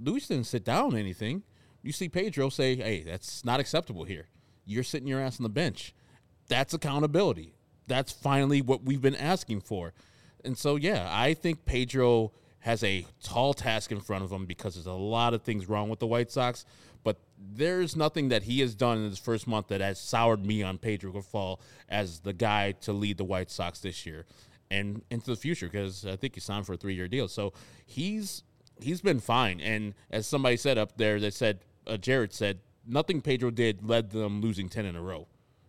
S2: Luis didn't sit down anything. You see Pedro say, hey, that's not acceptable here. You're sitting your ass on the bench. That's accountability. That's finally what we've been asking for. And so, yeah, I think Pedro has a tall task in front of him because there's a lot of things wrong with the White Sox. But there's nothing that he has done in his first month that has soured me on Pedro Grifol as the guy to lead the White Sox this year and into the future, because I think he signed for a three-year deal. So he's he's been fine. And as somebody said up there, they said, uh, Jared said, nothing Pedro did led them losing ten in a row.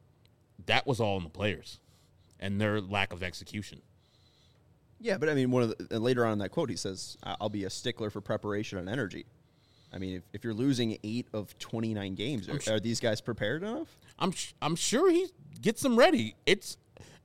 S2: That was all in the players and their lack of execution.
S1: Yeah, but I mean, one of the, and later on in that quote, he says, "I'll be a stickler for preparation and energy." I mean, if, if you're losing eight of twenty-nine games, are, are these guys prepared enough?
S2: I'm I'm sure he gets them ready. It's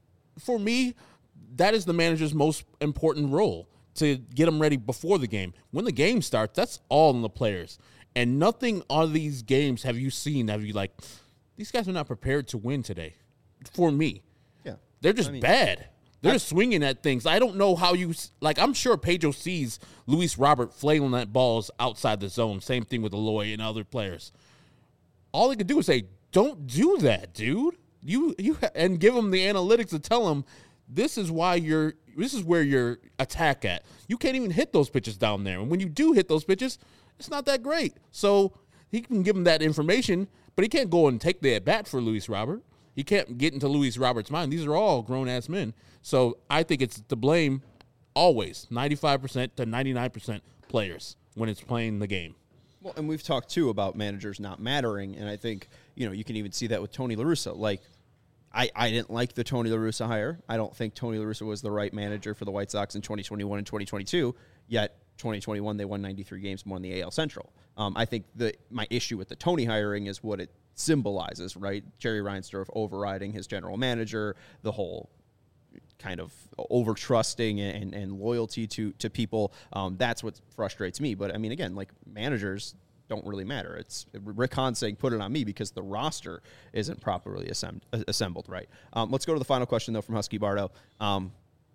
S2: for me, that is the manager's most important role, to get them ready before the game. When the game starts, that's all in the players. And nothing on these games have you seen have you like, these guys are not prepared to win today. For me,
S1: Yeah,
S2: they're just
S1: I mean,
S2: bad. They're just swinging at things. I don't know how you – like, I'm sure Pedro sees Luis Robert flailing at balls outside the zone. Same thing with Eloy and other players. All he could do is say, don't do that, dude. You you ha- and give him the analytics to tell him this is why you're – this is where your attack at. You can't even hit those pitches down there. And when you do hit those pitches, it's not that great. So he can give him that information, but he can't go and take the at-bat for Luis Robert. He can't get into Luis Robert's mind. These are all grown-ass men. So I think it's to blame always, ninety-five percent to ninety-nine percent players when it's playing the game.
S1: Well, and we've talked, too, about managers not mattering, and I think, you know, you can even see that with Tony La Russa. Like, I, I didn't like the Tony La Russa hire. I don't think Tony La Russa was the right manager for the White Sox in twenty twenty-one and twenty twenty-two, yet twenty twenty-one they won ninety-three games, won the A L Central. Um, I think the my issue with the Tony hiring is what it symbolizes, right? Jerry Reinsdorf overriding his general manager, the whole kind of over trusting and, and loyalty to to people. Um, that's what frustrates me. But I mean, again, like, managers don't really matter. It's Rick Hahn saying put it on me because the roster isn't properly assemb- assembled right. Um, let's go to the final question though from Husky Bardo. Um,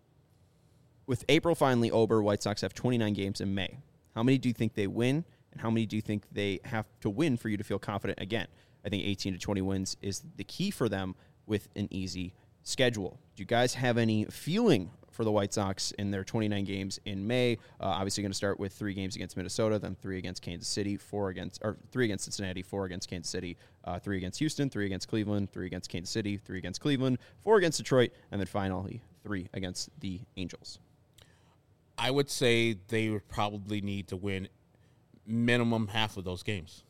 S1: with April finally over, White Sox have twenty-nine games in May. How many do you think they win, and how many do you think they have to win for you to feel confident again? I think eighteen to twenty wins is the key for them with an easy schedule. Do you guys have any feeling for the White Sox in their twenty-nine games in May? Uh, obviously going to start with three games against Minnesota, then three against Kansas City, four against, or three against Cincinnati, four against Kansas City, uh, three against Houston, three against Cleveland, three against Kansas City, three against Cleveland, four against Detroit, and then finally three against the Angels.
S2: I would say they would probably need to win minimum half of those games.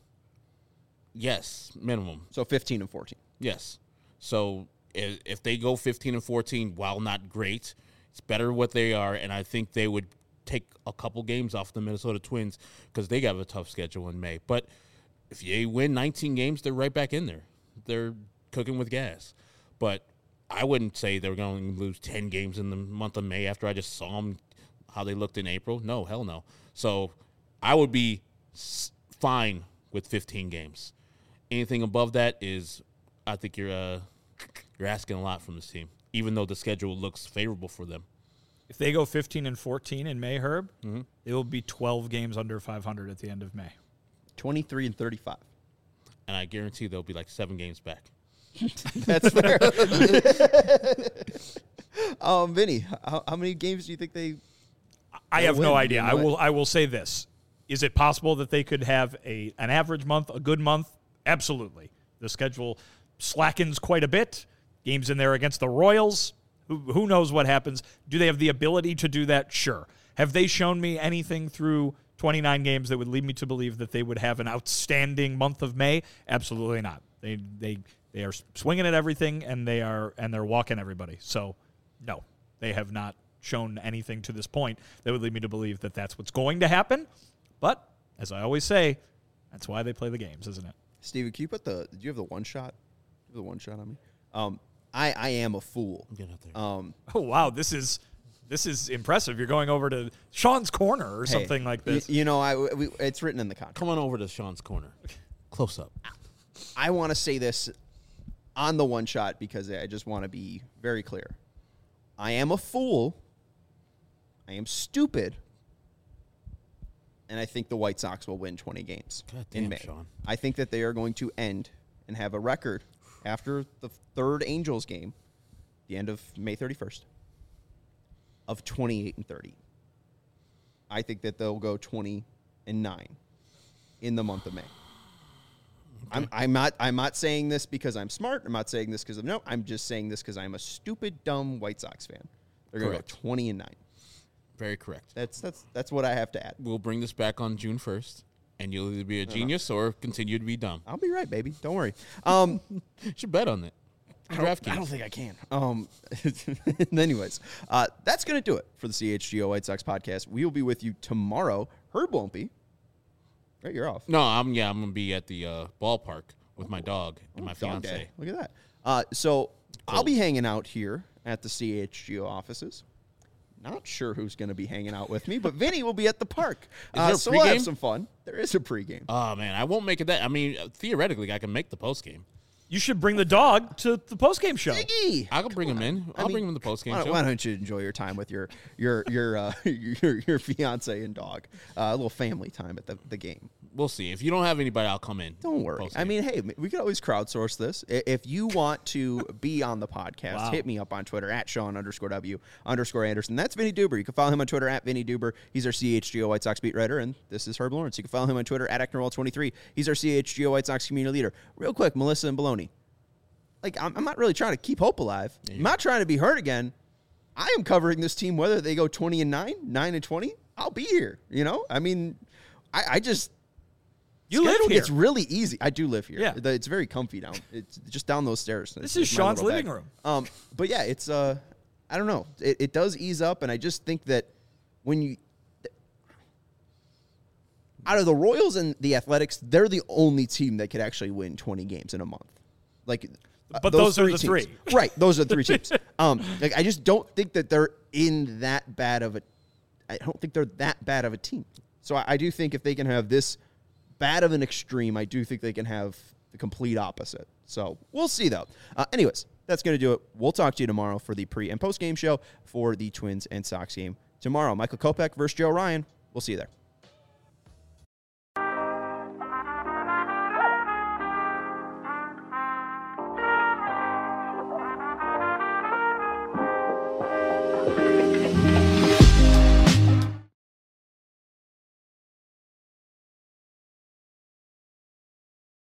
S2: Yes, minimum.
S1: So fifteen and fourteen.
S2: Yes. So if, if they go fifteen and fourteen, while not great, it's better what they are, and I think they would take a couple games off the Minnesota Twins because they got a tough schedule in May. But if you win nineteen games, they're right back in there. They're cooking with gas. But I wouldn't say they're going to lose ten games in the month of May after I just saw them, how they looked in April. No, hell no. So I would be fine with fifteen games. Anything above that is, I think you're uh, you're asking a lot from this team, even though the schedule looks favorable for them.
S3: If they go fifteen and fourteen in May, Herb, mm-hmm. it will be twelve games under five hundred at the end of May.
S1: twenty-three and thirty-five.
S2: And I guarantee they'll be like seven games back.
S1: That's fair. um, Vinny, how, how many games do you think they?
S3: I have
S1: win?
S3: no idea.
S1: You know
S3: I
S1: what?
S3: will. I will say this: is it possible that they could have a an average month, a good month? Absolutely. The schedule slackens quite a bit. Games in there against the Royals. Who, who knows what happens? Do they have the ability to do that? Sure. Have they shown me anything through twenty-nine games that would lead me to believe that they would have an outstanding month of May? Absolutely not. They they they are swinging at everything, and they are and they're walking everybody. So, no, they have not shown anything to this point that would lead me to believe that that's what's going to happen. But as I always say, that's why they play the games, isn't it?
S1: Steven, can you put the? Do you have the one shot? Do you have the one shot on me? Um, I I am a fool.
S2: Get out there.
S1: Um,
S3: Oh wow, this is this is impressive. You're going over to Sean's corner or
S1: hey,
S3: something like this.
S1: y- you know, I we, it's written in the contract.
S2: Come on over to Sean's corner. Close up.
S1: I want to say this on the one shot because I just want to be very clear. I am a fool. I am stupid. and I think the White Sox will win twenty games
S2: God damn,
S1: in May.
S2: Sean.
S1: I think that they are going to end and have a record after the third Angels game, the end of May thirty-first, of twenty-eight and thirty. I think that they'll go twenty and nine in the month of May. I'm, I'm not I'm not saying this because I'm smart. I'm not saying this because of no. I'm just saying this because I'm a stupid, dumb White Sox fan. They're going to go
S2: Correct.
S1: twenty and nine.
S2: Very correct.
S1: That's that's that's what I have to add.
S2: We'll bring this back on June first, and you'll either be a genius or continue to be dumb.
S1: I'll be right, baby. Don't worry. Um,
S2: You should bet on it.
S1: I don't, I
S2: DraftKings.
S1: don't think I can. Um, anyways, uh, that's going to do it for the C H G O White Sox podcast. We will be with you tomorrow. Herb won't be. Right, you're off.
S2: No, I'm yeah, I'm gonna be at the uh, ballpark with my dog and my
S1: Dog
S2: fiance.
S1: day. Look at that. Uh, so I'll be hanging out here at the C H G O offices. Not sure who's going to be hanging out with me, but Vinny will be at the park.
S2: Is
S1: Uh,
S2: there a
S1: so we'll have
S2: pregame?
S1: some fun. There is a pregame.
S2: Oh man, I won't make it that. I mean, theoretically, I can make the post game.
S3: You should bring the dog to the postgame show.
S1: Iggy!
S2: I can bring him in. I'll
S1: I mean,
S2: bring him in the post game
S1: Why,
S2: show.
S1: why don't you enjoy your time with your your your uh, your, your fiance and dog? Uh, a little family time at the, the game.
S2: We'll see. If you don't have anybody, I'll come in.
S1: Don't worry.
S2: Post-game.
S1: I mean, hey, we could always crowdsource this. I- If you want to be on the podcast,
S3: Wow.
S1: hit me up on Twitter at Sean underscore W underscore Anderson. That's Vinny Duber. You can follow him on Twitter at Vinny Duber. He's our C H G O White Sox beat writer, and this is Herb Lawrence. You can follow him on Twitter at Ecknerwall twenty-three. He's our C H G O White Sox community leader. Real quick, Melissa and Baloney. Like, I'm, I'm not really trying to keep hope alive. I'm not trying to be hurt again. I am covering this team whether they go twenty and nine, nine and twenty. I'll be here. You know, I mean, I, I just
S3: You live
S1: schedule
S3: here.
S1: gets really easy. I do live here.
S3: Yeah.
S1: The- it's very comfy down. It's just down those stairs.
S3: This
S1: It's
S3: is
S1: my
S3: Sean's
S1: little
S3: living
S1: bag.
S3: room.
S1: Um, but yeah, it's uh, I don't know. It, it does ease up, and I just think that when you out of the Royals and the Athletics, they're the only team that could actually win twenty games in a month. Like, uh,
S3: But those are the
S1: teams.
S3: three.
S1: right? Those are the three teams. Um, like I just don't think that they're in that bad of a. I don't think they're that bad of a team. So I, I do think if they can have this bad of an extreme, I do think they can have the complete opposite. So we'll see, though. Uh, anyways, that's going to do it. We'll talk to you tomorrow for the pre and post game show for the Twins and Sox game tomorrow. Michael Kopech versus Joe Ryan. We'll see you there.